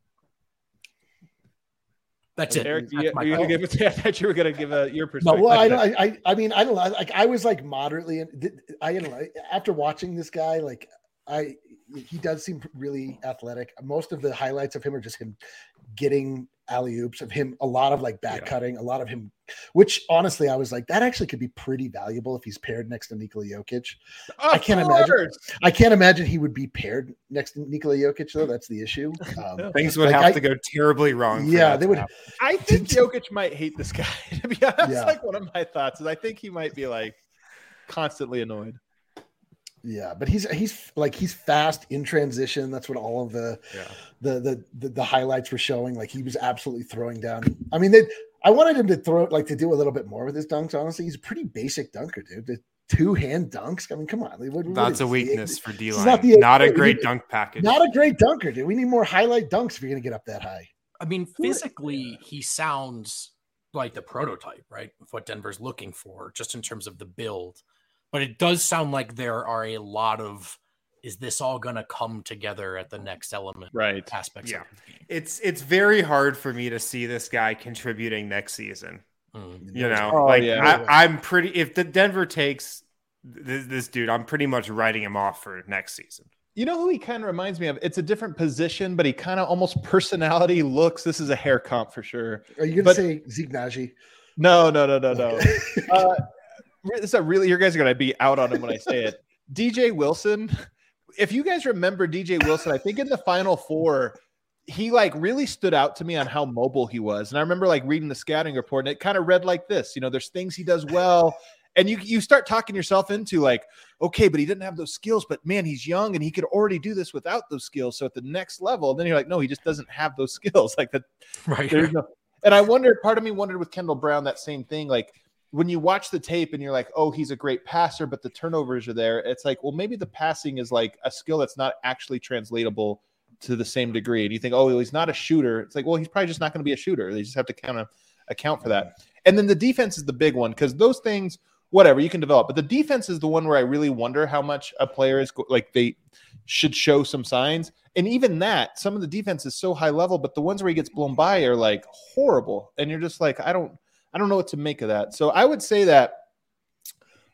That's it. Eric, I thought you were going to give your perspective. No, well, I mean, I don't know. Like, I was like moderately. I don't know. After watching this guy, like he does seem really athletic. Most of the highlights of him are just him getting alley-oops, of him, a lot of like back cutting, a lot of him, which honestly, I was like, that actually could be pretty valuable if he's paired next to Nikola Jokic. I can't imagine he would be paired next to Nikola Jokic, though. That's the issue. Things would have to go terribly wrong. Yeah, they would. I think Jokic might hate this guy. To be honest, like one of my thoughts is I think he might be like constantly annoyed. Yeah, but he's fast in transition. That's what all of the highlights were showing. Like he was absolutely throwing down. I mean, I wanted him to to do a little bit more with his dunks. Honestly, he's a pretty basic dunker, dude. The 2-hand dunks. I mean, come on. That's a weakness for D-line. Not a great dunk package. Not a great dunker, dude. We need more highlight dunks if you're going to get up that high. I mean, physically, he sounds like the prototype, right? Of what Denver's looking for, just in terms of the build. But it does sound like there are a lot of, is this all going to come together at the next element? Right. Aspects. Yeah. It's very hard for me to see this guy contributing next season. You know, I'm pretty, if the Denver takes this dude, I'm pretty much writing him off for next season. You know who he kind of reminds me of? It's a different position, but he kind of almost personality looks. This is a hair comp for sure. Are you going to say Zeke Naji? No. It's a really, you guys are going to be out on him when I say it. DJ Wilson. If you guys remember DJ Wilson, I think in the Final Four, he like really stood out to me on how mobile he was. And I remember like reading the scouting report and it kind of read like this, there's things he does well. And you start talking yourself into like, okay, but he didn't have those skills, but man, he's young and he could already do this without those skills. So at the next level, then you're like, no, he just doesn't have those skills like that. Right. And part of me wondered with Kendall Brown, that same thing, like, when you watch the tape and you're like, oh, he's a great passer, but the turnovers are there. It's like, well, maybe the passing is like a skill that's not actually translatable to the same degree. And you think, oh, he's not a shooter. It's like, well, he's probably just not going to be a shooter. They just have to kind of account for that. And then the defense is the big one, because those things, whatever, you can develop. But the defense is the one where I really wonder how much a player is like they should show some signs. And even that, some of the defense is so high level, but the ones where he gets blown by are like horrible. And you're just like, I don't know what to make of that. So I would say that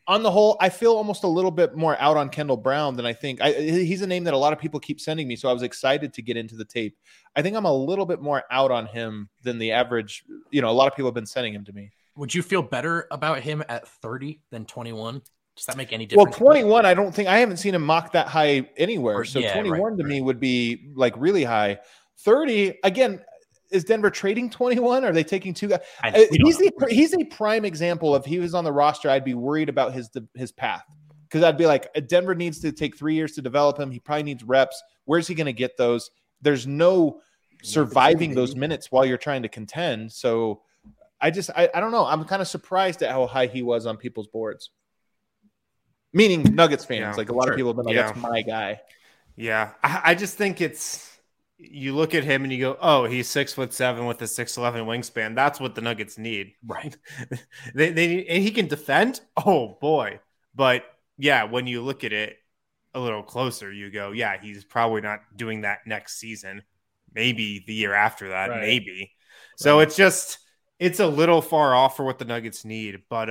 on the whole, I feel almost a little bit more out on Kendall Brown than I think. He's a name that a lot of people keep sending me, so I was excited to get into the tape. I think I'm a little bit more out on him than the average. A lot of people have been sending him to me. Would you feel better about him at 30 than 21? Does that make any difference? Well, 21, I haven't seen him mock that high anywhere. So 21 to me would be like really high. 30, again, is Denver trading 21? Are they taking two guys? He's a prime example of he was on the roster. I'd be worried about his path because I'd be like, Denver needs to take 3 years to develop him. He probably needs reps. Where's he going to get those? There's no surviving those minutes while you're trying to contend. So I don't know. I'm kind of surprised at how high he was on people's boards. Meaning Nuggets fans. Like a lot of people have been like, that's my guy. Yeah. I just think you look at him and you go, oh, he's 6'7" with a 6'11" wingspan. That's what the Nuggets need. Right. they need, and he can defend. Oh boy. But yeah, when you look at it a little closer, you go, yeah, he's probably not doing that next season. Maybe the year after that, maybe. So it's a little far off for what the Nuggets need. But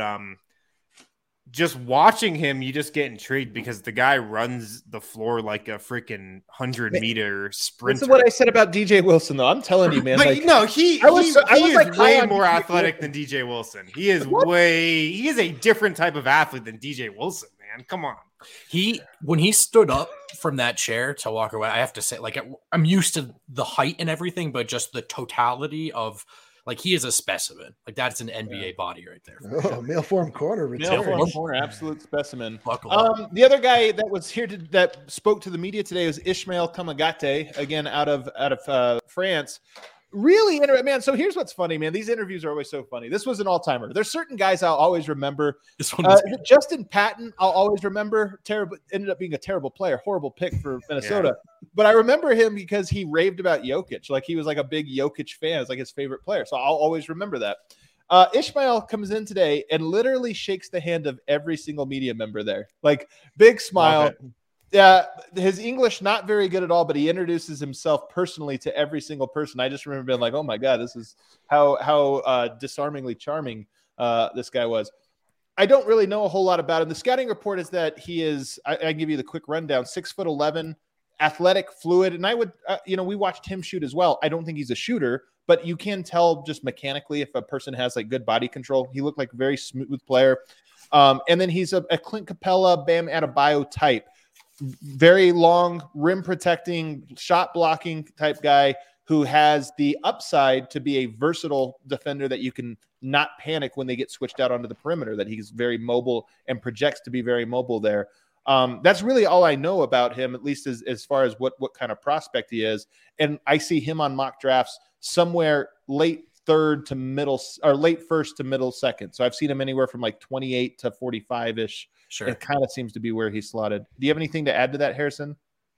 just watching him, you just get intrigued because the guy runs the floor like a freaking 100-meter sprinter. This is what I said about DJ Wilson, though. I'm telling you, man. But no, he is way more athletic than DJ Wilson. He is a different type of athlete than DJ Wilson, man. Come on. When he stood up from that chair to walk away, I have to say, like, I'm used to the height and everything, but just the totality of, like, he is a specimen. Like, that's an NBA body right there. Male form corner. Male form corner, absolute specimen. The other guy that was here that spoke to the media today was Ishmael Kamagate, again out of France. Really interesting, man. So here's what's funny, man. These interviews are always so funny. This was an all-timer. There's certain guys I'll always remember. This one was Justin Patton, I'll always remember. Terrible, ended up being a terrible player. Horrible pick for Minnesota. Yeah. But I remember him because he raved about Jokic. Like, he was like a big Jokic fan. It's like his favorite player. So I'll always remember that. Ishmael comes in today and literally shakes the hand of every single media member there. Like, big smile. Yeah, his English not very good at all, but he introduces himself personally to every single person. I just remember being like, "Oh my God, this is how disarmingly charming this guy was." I don't really know a whole lot about him. The scouting report is that he is. I can give you the quick rundown: 6'11", athletic, fluid, and I would, we watched him shoot as well. I don't think he's a shooter, but you can tell just mechanically if a person has like good body control. He looked like a very smooth player, and then he's a Clint Capella, Bam Adebayo type. Very long, rim protecting, shot blocking type guy who has the upside to be a versatile defender that you can not panic when they get switched out onto the perimeter, that he's very mobile and projects to be very mobile there. That's really all I know about him, at least as far as what kind of prospect he is. And I see him on mock drafts somewhere late third to middle, or late first to middle second. So I've seen him anywhere from like 28 to 45-ish. Sure. It kind of seems to be where he's slotted. Do you have anything to add to that, Harrison?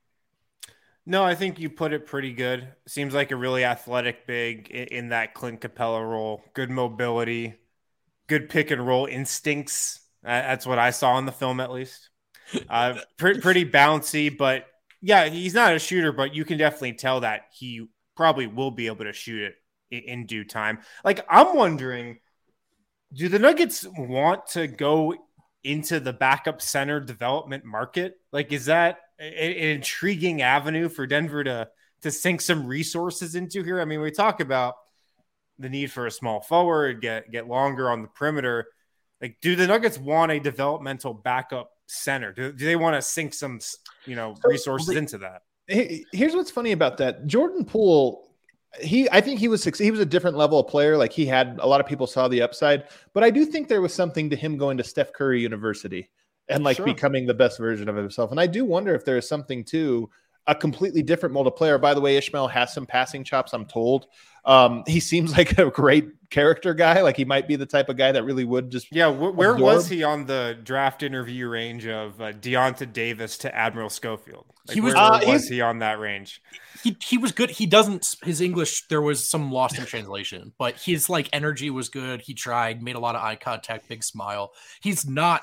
No, I think you put it pretty good. Seems like a really athletic big in that Clint Capella role. Good mobility, good pick and roll instincts. That's what I saw in the film, at least. Pretty bouncy, but yeah, he's not a shooter, but you can definitely tell that he probably will be able to shoot it in due time. Like, I'm wondering, do the Nuggets want to go into the backup center development market? Like, is that an intriguing avenue for Denver to sink some resources into here? I mean, we talk about the need for a small forward, get longer on the perimeter. Like, do the Nuggets want a developmental backup center? Do they want to sink some, resources into that? Here's what's funny about that. Jordan Poole, I think he was a different level of player. Like, he had, a lot of people saw the upside, but I do think there was something to him going to Steph Curry University and becoming the best version of himself. And I do wonder if there is something to a completely different mold of player. By the way, Ishmael has some passing chops, I'm told. He seems like a great character guy. Like, he might be the type of guy that really would just. Yeah. Where was he on the draft interview range of Deonta Davis to Admiral Schofield? Like, where was he on that range? He was good. His English, there was some lost in translation, but his energy was good. He tried, made a lot of eye contact, big smile. He's not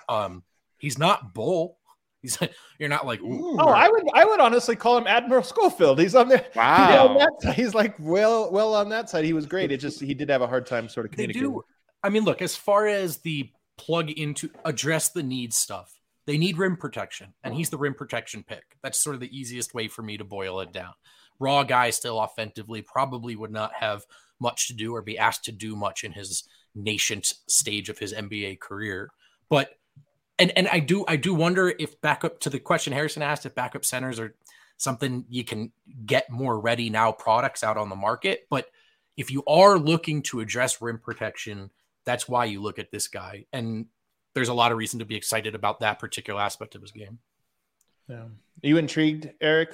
Bull. You're not like, ooh. Oh, I would honestly call him Admiral Schofield. He's on there. Wow. He's like well on that side. He was great. It just, he did have a hard time sort of communicating. I mean, look, as far as the address the needs stuff. They need rim protection, and he's the rim protection pick. That's sort of the easiest way for me to boil it down. Raw guy still offensively probably would not have much to do or be asked to do much in his nascent stage of his NBA career. But and I do wonder if backup to the question Harrison asked, if backup centers are something you can get more ready now products out on the market. But if you are looking to address rim protection, that's why you look at this guy. And there's a lot of reason to be excited about that particular aspect of his game. Yeah. Are you intrigued, Eric?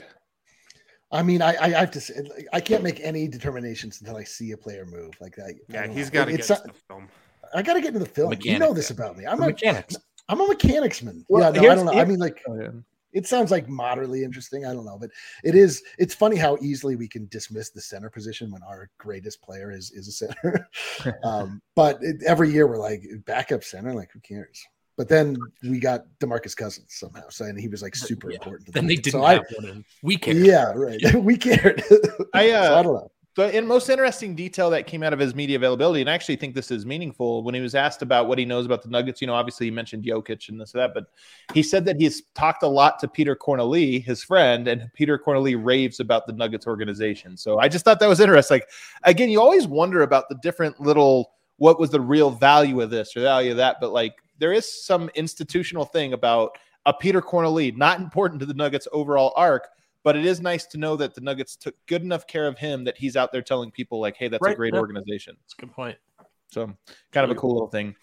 I mean, I have to say, I can't make any determinations until I see a player move like that. Yeah, he's got to get into the film. I got to get into the film. You know this about me. I'm a mechanicsman. Well, yeah, no, I don't know. I mean, like, it sounds like moderately interesting. I don't know, but it's funny how easily we can dismiss the center position when our greatest player is a center. But every year we're like, backup center, like, who cares? But then we got DeMarcus Cousins somehow, and he was like super important. To then they didn't have one. We cared. Yeah, right. We cared. I don't know. But in most interesting detail that came out of his media availability, and I actually think this is meaningful, when he was asked about what he knows about the Nuggets, obviously he mentioned Jokic and this or that, but he said that he's talked a lot to Peter Corneli, his friend, and Peter Corneli raves about the Nuggets organization. So I just thought that was interesting. Like, again, you always wonder about the different little, what was the real value of this or value of that, but like, there is some institutional thing about a Peter Corneli, not important to the Nuggets overall arc, but it is nice to know that the Nuggets took good enough care of him that he's out there telling people like, hey, that's a great organization. That's a good point. So kind of a cool little thing.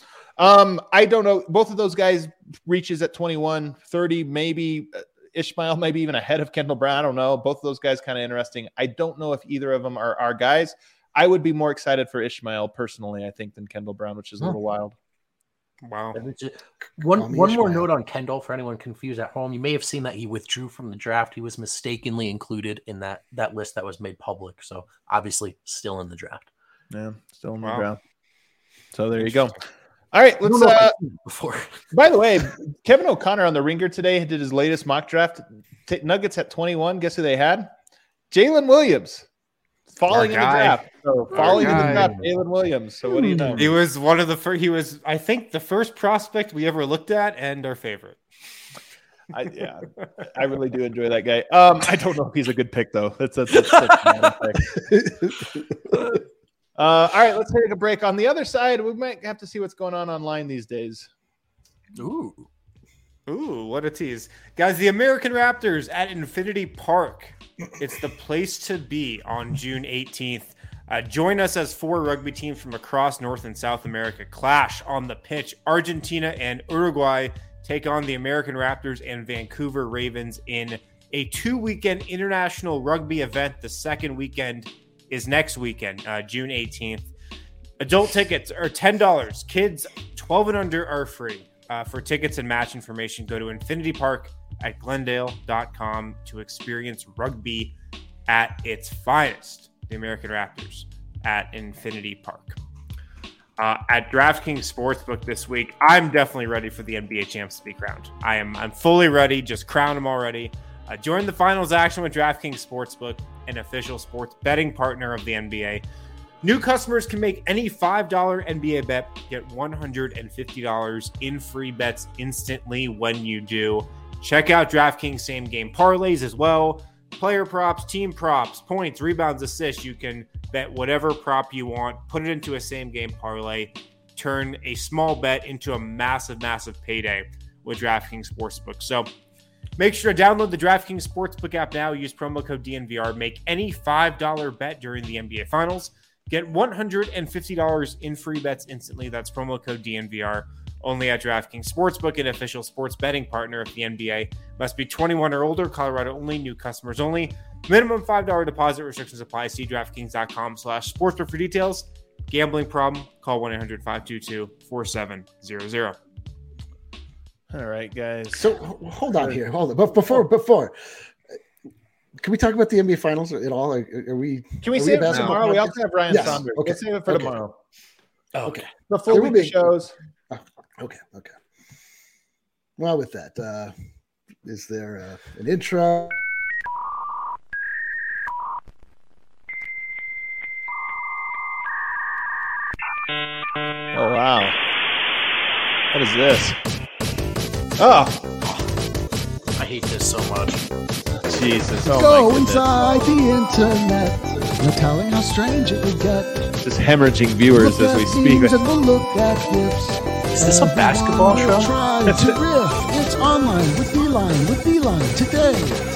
I don't know. Both of those guys reaches at 21, 30, maybe Ishmael, maybe even ahead of Kendall Brown. I don't know. Both of those guys kind of interesting. I don't know if either of them are our guys. I would be more excited for Ishmael personally, I think, than Kendall Brown, which is a little wild. Wow. One more note on Kendall for anyone confused at home. You may have seen that he withdrew from the draft. He was mistakenly included in that list that was made public. So obviously still in the draft. Yeah, still in the draft. So there you go. All right, let's before. By the way, Kevin O'Connor on the Ringer today did his latest mock draft. Nuggets at 21. Guess who they had? Jalen Williams. Falling in the draft. So falling in the draft, Jalen Williams. So what do you know? He was one of the first. He was, I think, the first prospect we ever looked at, and our favorite. I really do enjoy that guy. I don't know if he's a good pick though. That's such a pick. All right, let's take a break. On the other side, we might have to see what's going on online these days. Ooh, what a tease, guys! The American Raptors at Infinity Park. It's the place to be on June 18th. Join us as 4 rugby teams from across North and South America clash on the pitch. Argentina and Uruguay take on the American Raptors and Vancouver Ravens in a 2-weekend international rugby event. The second weekend is next weekend, June 18th. Adult tickets are $10. Kids 12 and under are free. For tickets and match information, go to Infinity Park at Glendale.com to experience rugby at its finest. The American Raptors at Infinity Park. At DraftKings Sportsbook this week, I'm definitely ready for the NBA champs to be crowned. I'm fully ready. Just crown them already. Join the finals action with DraftKings Sportsbook, an official sports betting partner of the NBA. New customers can make any $5 NBA bet, get $150 in free bets instantly when you do. Check out DraftKings same game parlays as well. Player props, team props, points, rebounds, assists. You can bet whatever prop you want, put it into a same game parlay, turn a small bet into a massive, massive payday with DraftKings Sportsbook. So make sure to download the DraftKings Sportsbook app now. Use promo code DNVR. Make any $5 bet during the NBA Finals. Get $150 in free bets instantly. That's promo code DNVR. Only at DraftKings Sportsbook, an official sports betting partner of the NBA. Must be 21 or older. Colorado only. New customers only. Minimum $5 deposit. Restrictions apply. See DraftKings.com/sportsbook for details. Gambling problem? Call 1-800-522-4700. All right, guys. So hold on here. Hold on. But before, can we talk about the NBA Finals at all? Are we? Can we save it tomorrow? We also have Ryan Saunders. Okay. Let's save it for tomorrow. Oh, okay. The full week of shows. Okay. Well, with that, is there an intro? Oh, wow. What is this? Oh, I hate this so much. Jesus. Oh, Go my goodness. inside the internet. No telling how strange it would get. Just hemorrhaging viewers Look as we at speak. memes and we'll look at gifs. Is this a basketball Everyone will show? try to riff. It's online with Beeline today.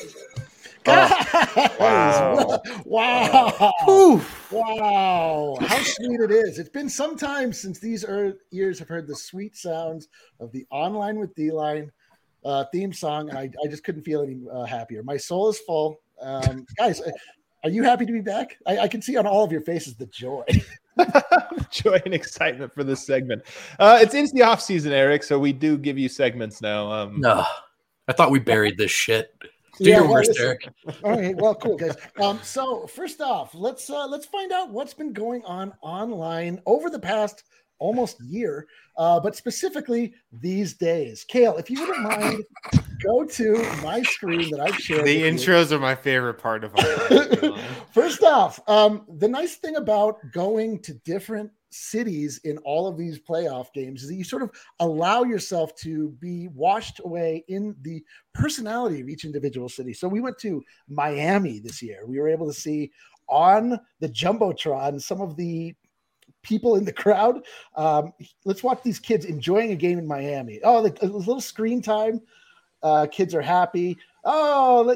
Wow. Wow. Whew. Wow. How sweet it is. It's been some time since these ears have heard the sweet sounds of the Online with D-Line theme song. And I just couldn't feel any happier. My soul is full. Guys, are you happy to be back? I can see on all of your faces the joy. Joy and excitement for this segment. It's the off season, Eric, so we do give you segments now. No, I thought we buried this shit. Do Yeah, your well, worst, listen. Eric. All right, well, cool, guys. So first off, let's find out what's been going on online over the past almost year, but specifically these days. Kale, if you wouldn't mind, go to my screen that I've shared. The with you. intros are my favorite part of our First off, the nice thing about going to different cities in all of these playoff games is that you sort of allow yourself to be washed away in the personality of each individual city. So we went to Miami this year. We were able to see on the Jumbotron some of the people in the crowd. Let's watch these kids enjoying a game in Miami. Oh, a little screen time. Kids are happy. Oh,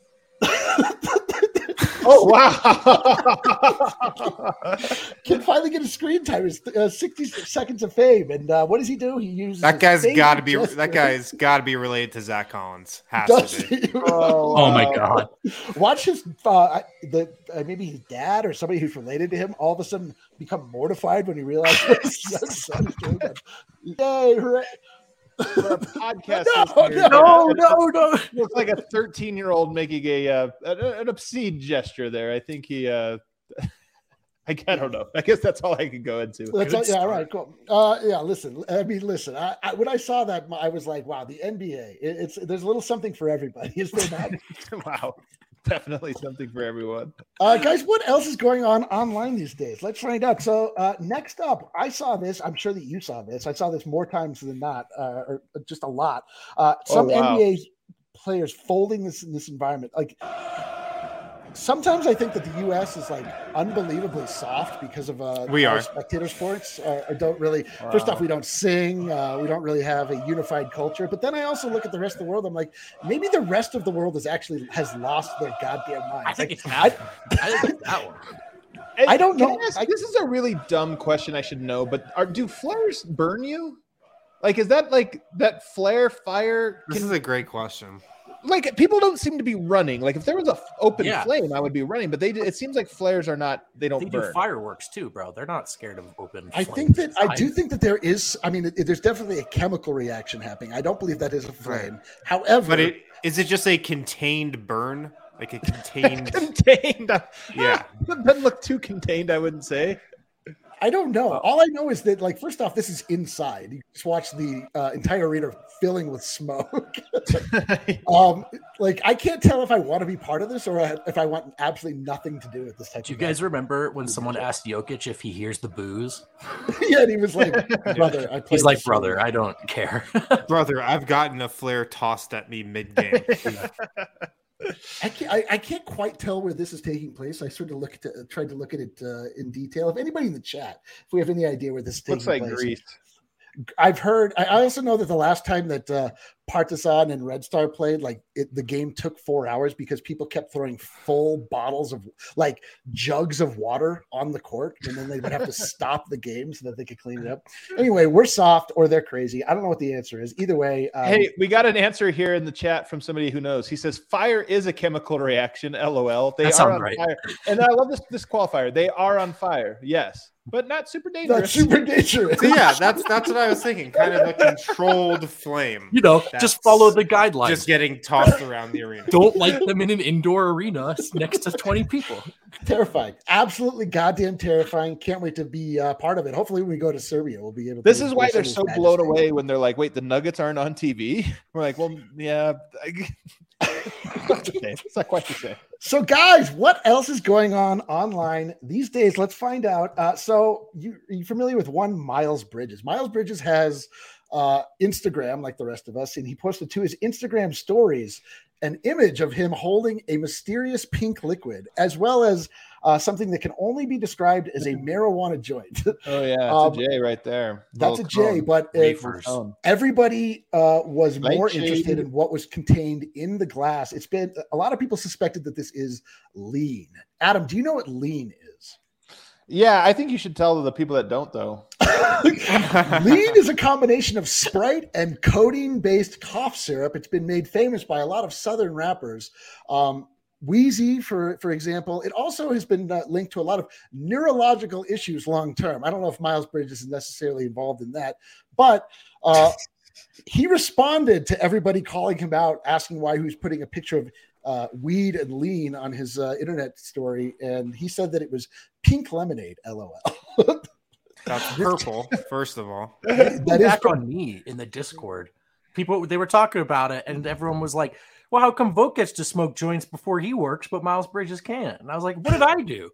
Oh, wow. Kid finally get a screen time. It's 60 seconds of fame. And what does he do? He uses That guy's his got to be gesture. that guy's got to be related to Zach Collins. Has Does to be. he? Oh my god. Watch his maybe his dad or somebody who's related to him all of a sudden become mortified when he realizes what his young son is doing. Yay, hooray. For a podcast No, listener, No. It looks like a 13-year-old making an obscene gesture there. I think he I don't know. I guess that's all I can go into. Yeah, all right, cool. Listen. I when I saw that, I was like, wow, the NBA. There's a little something for everybody, is there not? Wow. Definitely something for everyone. Guys, what else is going on online these days? Let's find out. So next up, I saw this. I'm sure that you saw this. I saw this more times than not, or just a lot. Some wow. NBA players folding this in this environment. Like sometimes I think that the U.S. is like unbelievably soft because of We our are. spectator sports. Or don't really. First off, we don't sing. We don't really have a unified culture. But then I also look at the rest of the world. I'm like, maybe the rest of the world has lost their goddamn minds. I think Like, it's that one. I think it's that one. I don't Can know. ask- this is a really dumb question. I should know, but do flares burn you? Like, is that like that flare fire? This is a great question. Like, people don't seem to be running. Like, if there was a open Yeah. flame, I would be running. But it seems like flares are not. They don't They do burn. fireworks too, bro. They're not scared of open. I flames. think that I do think that there is. I mean, there's definitely a chemical reaction happening. I don't believe that is a flame. Right. However, But is it just a contained burn? Like a contained Contained. Yeah. It doesn't look too contained, I wouldn't say. I don't know. All I know is that, like, first off, this is inside. You just watch the entire arena filling with smoke. Like, I can't tell if I want to be part of this or if I want absolutely nothing to do with this type. Do you of guys remember when someone asked Jokic if he hears the booze? Yeah, and he was like, "Brother, I." He's like, "Brother, I don't care." Brother, I've gotten a flare tossed at me mid-game. I can't quite tell where this is taking place. I sort of tried to look at it in detail. If anybody in the chat, if we have any idea where this is taking Looks like place, Greece. I've heard. I also know that the last time that Partizan and Red Star played, like the game took 4 hours because people kept throwing full bottles of like jugs of water on the court, and then they would have to stop the game so that they could clean it up. Anyway, we're soft or they're crazy. I don't know what the answer is. Either way, Hey, we got an answer here in the chat from somebody who knows. He says fire is a chemical reaction. LOL. They That are sounds on right. fire, and I love this qualifier. They are on fire. Yes, but not super dangerous. that's super dangerous. So yeah, that's what I was thinking. Kind of a controlled flame. You know, That's just follow the guidelines. Just getting tossed around the arena. Don't light them in an indoor arena next to 20 people. Terrifying. Absolutely goddamn terrifying. Can't wait to be part of it. Hopefully, when we go to Serbia, we'll be able to. This is why embrace they're his so majesty. blown away when they're like, "Wait, the Nuggets aren't on TV." We're like, "Well, yeah." It's okay. It's not quite the same. So, guys, what else is going on online these days? Let's find out. So, are you familiar with one Miles Bridges? Miles Bridges has Instagram, like the rest of us, and he posted to his Instagram stories an image of him holding a mysterious pink liquid, as well as something that can only be described as a marijuana joint. Oh yeah, it's a J right there. That's a J, but everybody was more interested in what was contained in the glass. It's been a lot of people suspected that this is lean. Adam, do you know what lean is? Yeah, I think you should tell the people that don't, though. Lean is a combination of Sprite and codeine-based cough syrup. It's been made famous by a lot of Southern rappers. Wheezy, for example. It also has been linked to a lot of neurological issues long term. I don't know if Miles Bridges is necessarily involved in that, but he responded to everybody calling him out, asking why he was putting a picture of weed and lean on his internet story, and he said that it was pink lemonade. LOL. That's purple, first of all. That is back on me in the Discord. People, they were talking about it, and everyone was like, well, how come Vogt gets to smoke joints before he works, but Miles Bridges can't? And I was like, what did I do?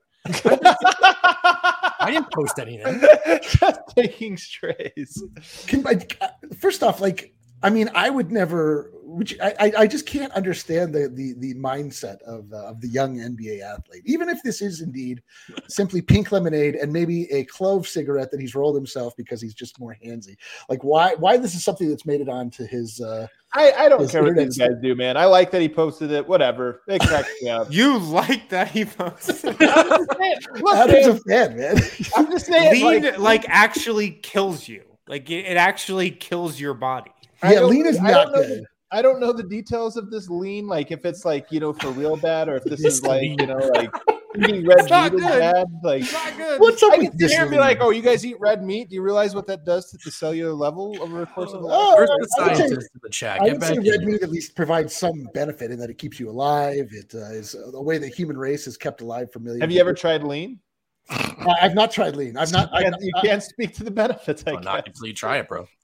I didn't post anything. Just taking strays. First off, I would never. I just can't understand the mindset of the young NBA athlete. Even if this is indeed simply pink lemonade and maybe a clove cigarette that he's rolled himself because he's just more handsy. Like why this is something that's made it onto his. I don't care what these guys do, man. I like that he posted it. Whatever. It cracks me up. You like that he posted it? Adam's a fan, man. I'm just saying. Lean actually kills you. Like it actually kills your body. Yeah, lean is not good. I don't know the details of this lean, like if it's like, for real bad, or if this is like, like eating red meat is bad. Like, it's not good. What's up I with can this? Sit here and be like, oh, you guys eat red meat? Do you realize what that does to the cellular level over the course of the life? Where's the scientist in the chat? I would say red meat at least provides some benefit in that it keeps you alive. It is the way the human race is kept alive for millions. Have you ever tried lean? I've not tried lean. You can't speak to the benefits. Not until you try it, bro.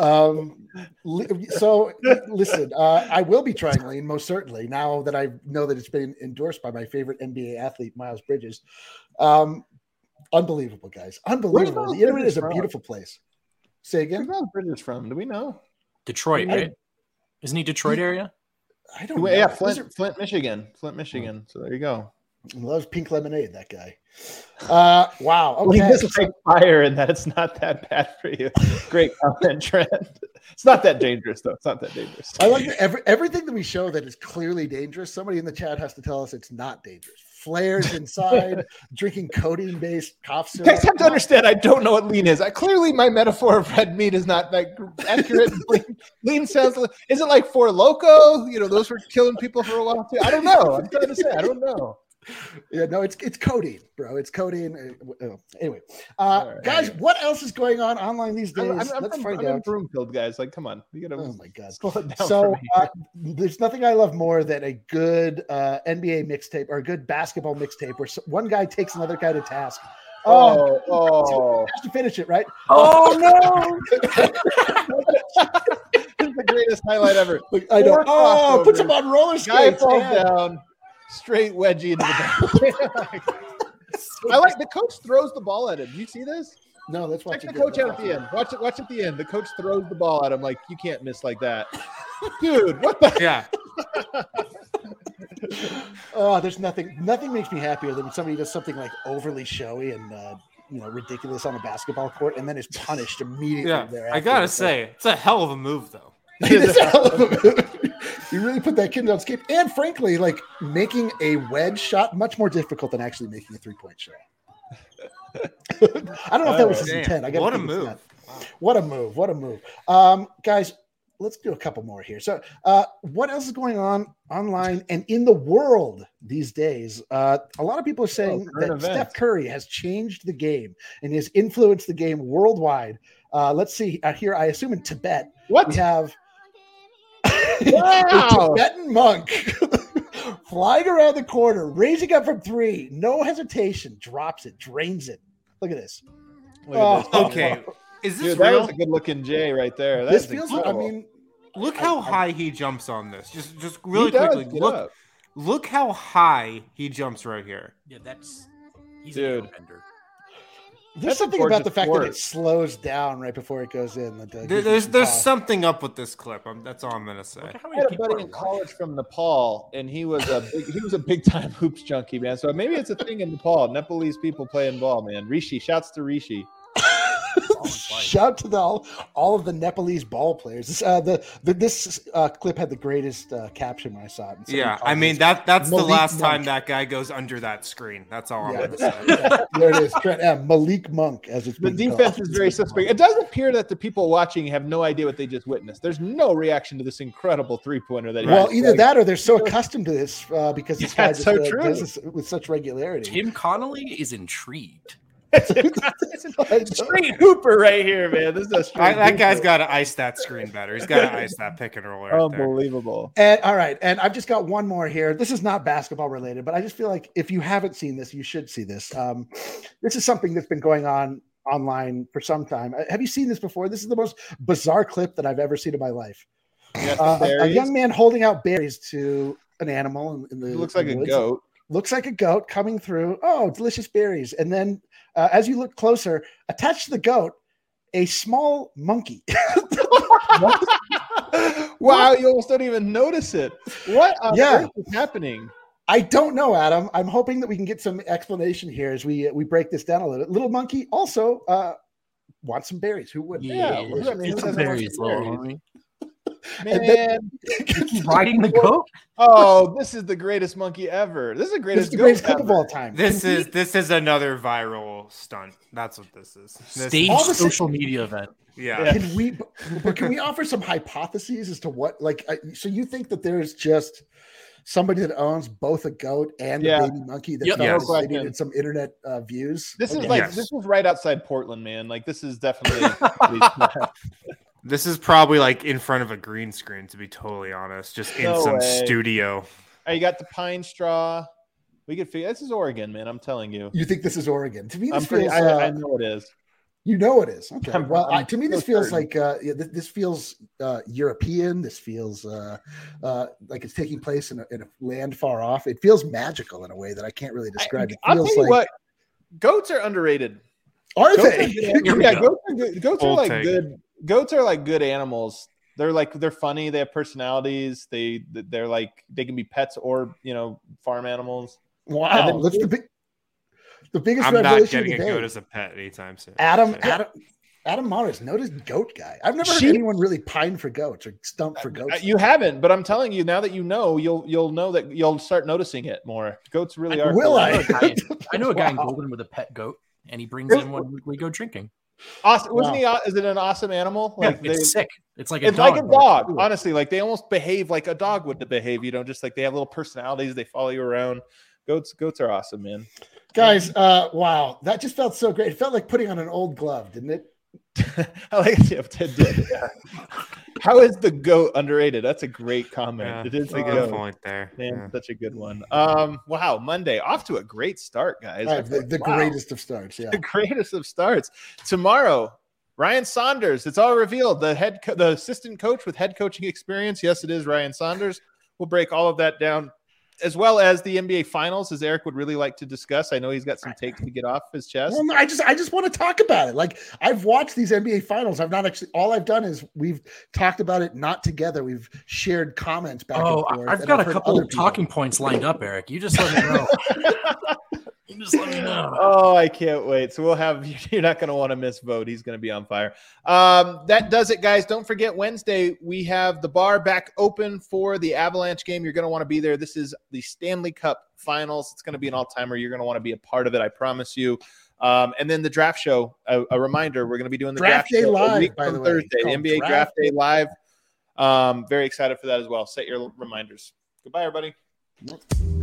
So listen, I will be trying lean most certainly now that I know that it's been endorsed by my favorite NBA athlete, Miles Bridges. Unbelievable, guys. Unbelievable. The internet is a beautiful place. Say again. Where's Miles Bridges from? Do we know? Detroit, right? Isn't he Detroit area? I don't know. Yeah, Flint, Michigan. Flint, Michigan. So there you go. Loves pink lemonade, that guy. Wow. Okay. This is like fire in that it's not that bad for you. Great comment, Trent. It's not that dangerous, though. It's not that dangerous. I like everything that we show that is clearly dangerous. Somebody in the chat has to tell us it's not dangerous. Flares inside, drinking codeine-based cough syrup. You guys have to understand, I don't know what lean is. Clearly, my metaphor of red meat is not that accurate. Lean sounds like, is it like Four Loko? Those were killing people for a while, too. I don't know. I'm trying to say, I don't know. Yeah, no, it's codeine, bro. It's codeine. Anyway, guys, what else is going on online these days? Let's find out. Broomfield, guys. Like, come on, you gotta. Oh my god, slow it down. So there's nothing I love more than a good NBA mixtape or a good basketball mixtape where one guy takes another guy to task. Oh, has to finish it, right? Oh no! This is the greatest highlight ever. I know. Oh, puts him on roller skates. Guy falls down. Straight wedgie into the back. I like the coach throws the ball at him. Do you see this? No, let's watch the coach out at the end. Watch at the end. The coach throws the ball at him like you can't miss like that. Dude, what the there's nothing makes me happier than when somebody does something like overly showy and ridiculous on a basketball court and then is punished immediately thereafter. I gotta say, it's a hell of a move though. It is a hell of a move. You really put that kid on skate. And frankly, making a wedge shot much more difficult than actually making a 3-point shot. I don't know if that was his intent. What a move. What a move. What a move. Guys, let's do a couple more here. So what else is going on online and in the world these days? A lot of people are saying that Steph Curry has changed the game and has influenced the game worldwide. Let's see here. I assume in Tibet, we have a Tibetan monk flying around the corner, raising up from 3, no hesitation, drops it, drains it. Look at this. Okay. Is this real? That was a good looking J right there. This feels incredible. Look how high he jumps on this. Just really quickly. Look how high he jumps right here. Yeah, he's Dude. an airbender. There's That's a something about gorgeous the fact that sport. it slows down right before it goes in. That, gives me There's some pause. something up with this clip. That's all I'm gonna say. Look at how I many had a people buddy are in watching. college from Nepal, and he was a big time hoops junkie, man. So maybe it's a thing in Nepal. Nepalese people playing ball, man. Rishi, shouts to Rishi. Shout to all of the Nepalese ball players. This clip had the greatest caption when I saw it. And somebody Yeah, called I mean it that's the Malik last time Monk. that guy goes under that screen. That's all I'm Yeah, gonna say. there it is. Malik Monk, as it's The being defense called. is very suspect. It does appear that the people watching have no idea what they just witnessed. There's no reaction to this incredible three-pointer that he Well, just either like- that or they're so accostomed to this because this guy That's just so true. does this with such regularity. Tim Connolly is intrigued. straight hooper right here, man. This is a straight That guy's hooper. got to ice that screen better. He's got to ice that pick and roll right there. Unbelievable. And all right, and I've just got one more here. This is not basketball related, but I just feel like if you haven't seen this, you should see this. This is something that's been going on online for some time. Have you seen this before? This is the most bizarre clip that I've ever seen in my life. Yes, A young man holding out berries to an animal in the It looks like a woods. goat. Looks like a goat coming through. Oh, delicious berries! And then, as you look closer, attached to the goat, a small monkey. Wow, you almost don't even notice it. What on Yeah. earth is happening? I don't know, Adam. I'm hoping that we can get some explanation here as we break this down a little bit. Little monkey also wants some berries. Who wouldn't? Yeah, Yeah, I mean, who get some doesn't want berries, some little berries? homie. And Man, Riding the goat? oh, this is the greatest monkey ever. This is the This greatest, is the greatest goat clip of ever. all time. This is another viral stunt. That's what this is. Stage all the social media event. Yeah. Can we offer some hypotheses as to what, like, so you think that there's just somebody that owns both a goat and Yeah. a baby monkey that Yep. felt Yes. like they needed some internet views? This is Okay. like Yes. this was right outside Portland, man. Like this is definitely. This is probably like in front of a green screen, to be totally honest, just in No some way. studio. Oh, you got the pine straw. We could figure this is Oregon, man. I'm telling you. You think this is Oregon? To me, I'm this pretty, feels. I know it is. You know it is. Okay. I'm- Well, I'm to me, this so feels certain. like this feels European. This feels like it's taking place in a land far off. It feels magical in a way that I can't really describe. It I'll feels tell you like what. Goats are underrated. are Goats they? are Here we yeah, go. goats are good. Goats are Bold like take. good. Goats are like good animals. They're funny. They have personalities. They're like they can be pets or farm animals. Wow, And then- that's the biggest I'm not revelation of getting the a day. goat as a pet anytime soon. Adam Morris, notice goat guy. I've never heard Sheep- anyone really pine for goats or stump for goats. You haven't, but I'm telling you now that you know, you'll know that you'll start noticing it more. Goats really are. Will I I? know a guy, I know a guy in Wow. Golden with a pet goat, and he brings in when we go drinking. Awesome. Wasn't Wow. he? Is it an awesome animal? Yeah, Like it's sick. It's like a it's dog. like a but it's dog. cool. Honestly, like they almost behave like a dog would behave. Just like they have little personalities. They follow you around. Goats are awesome, man. Guys, wow, that just felt so great. It felt like putting on an old glove, didn't it? I like it. Did. Yeah. How is the goat underrated? That's a great comment. Yeah, It is that's the a good goat. point there. Man, Yeah. such a good one. Wow, Monday off to a great start, guys. The Wow. greatest of starts. Yeah. The greatest of starts. Tomorrow, Ryan Saunders. It's all revealed. The assistant coach with head coaching experience. Yes, it is Ryan Saunders. We'll break all of that down, as well as the NBA Finals, as Eric would really like to discuss. I know he's got some takes to get off his chest. Well, no, I just want to talk about it. Like I've watched these NBA finals. I've not actually. All I've done is we've talked about it, not together. We've shared comments back Oh, and forth. I've and got a heard couple other of people. talking points lined up, Eric. You just let me know. You just let me know. Oh, I can't wait. So we'll have, you're not going to want to miss Vote. He's going to be on fire. That does it, guys. Don't forget, Wednesday, we have the bar back open for the Avalanche game. You're going to want to be there. This is the Stanley Cup Finals. It's going to be an all-timer. You're going to want to be a part of it. I promise you. And then the draft show, a reminder, we're going to be doing the Draft draft Day show a Live, week by from the way. Thursday, Called NBA Draft Draft Day Live. Very excited for that as well. Set your reminders. Goodbye, everybody.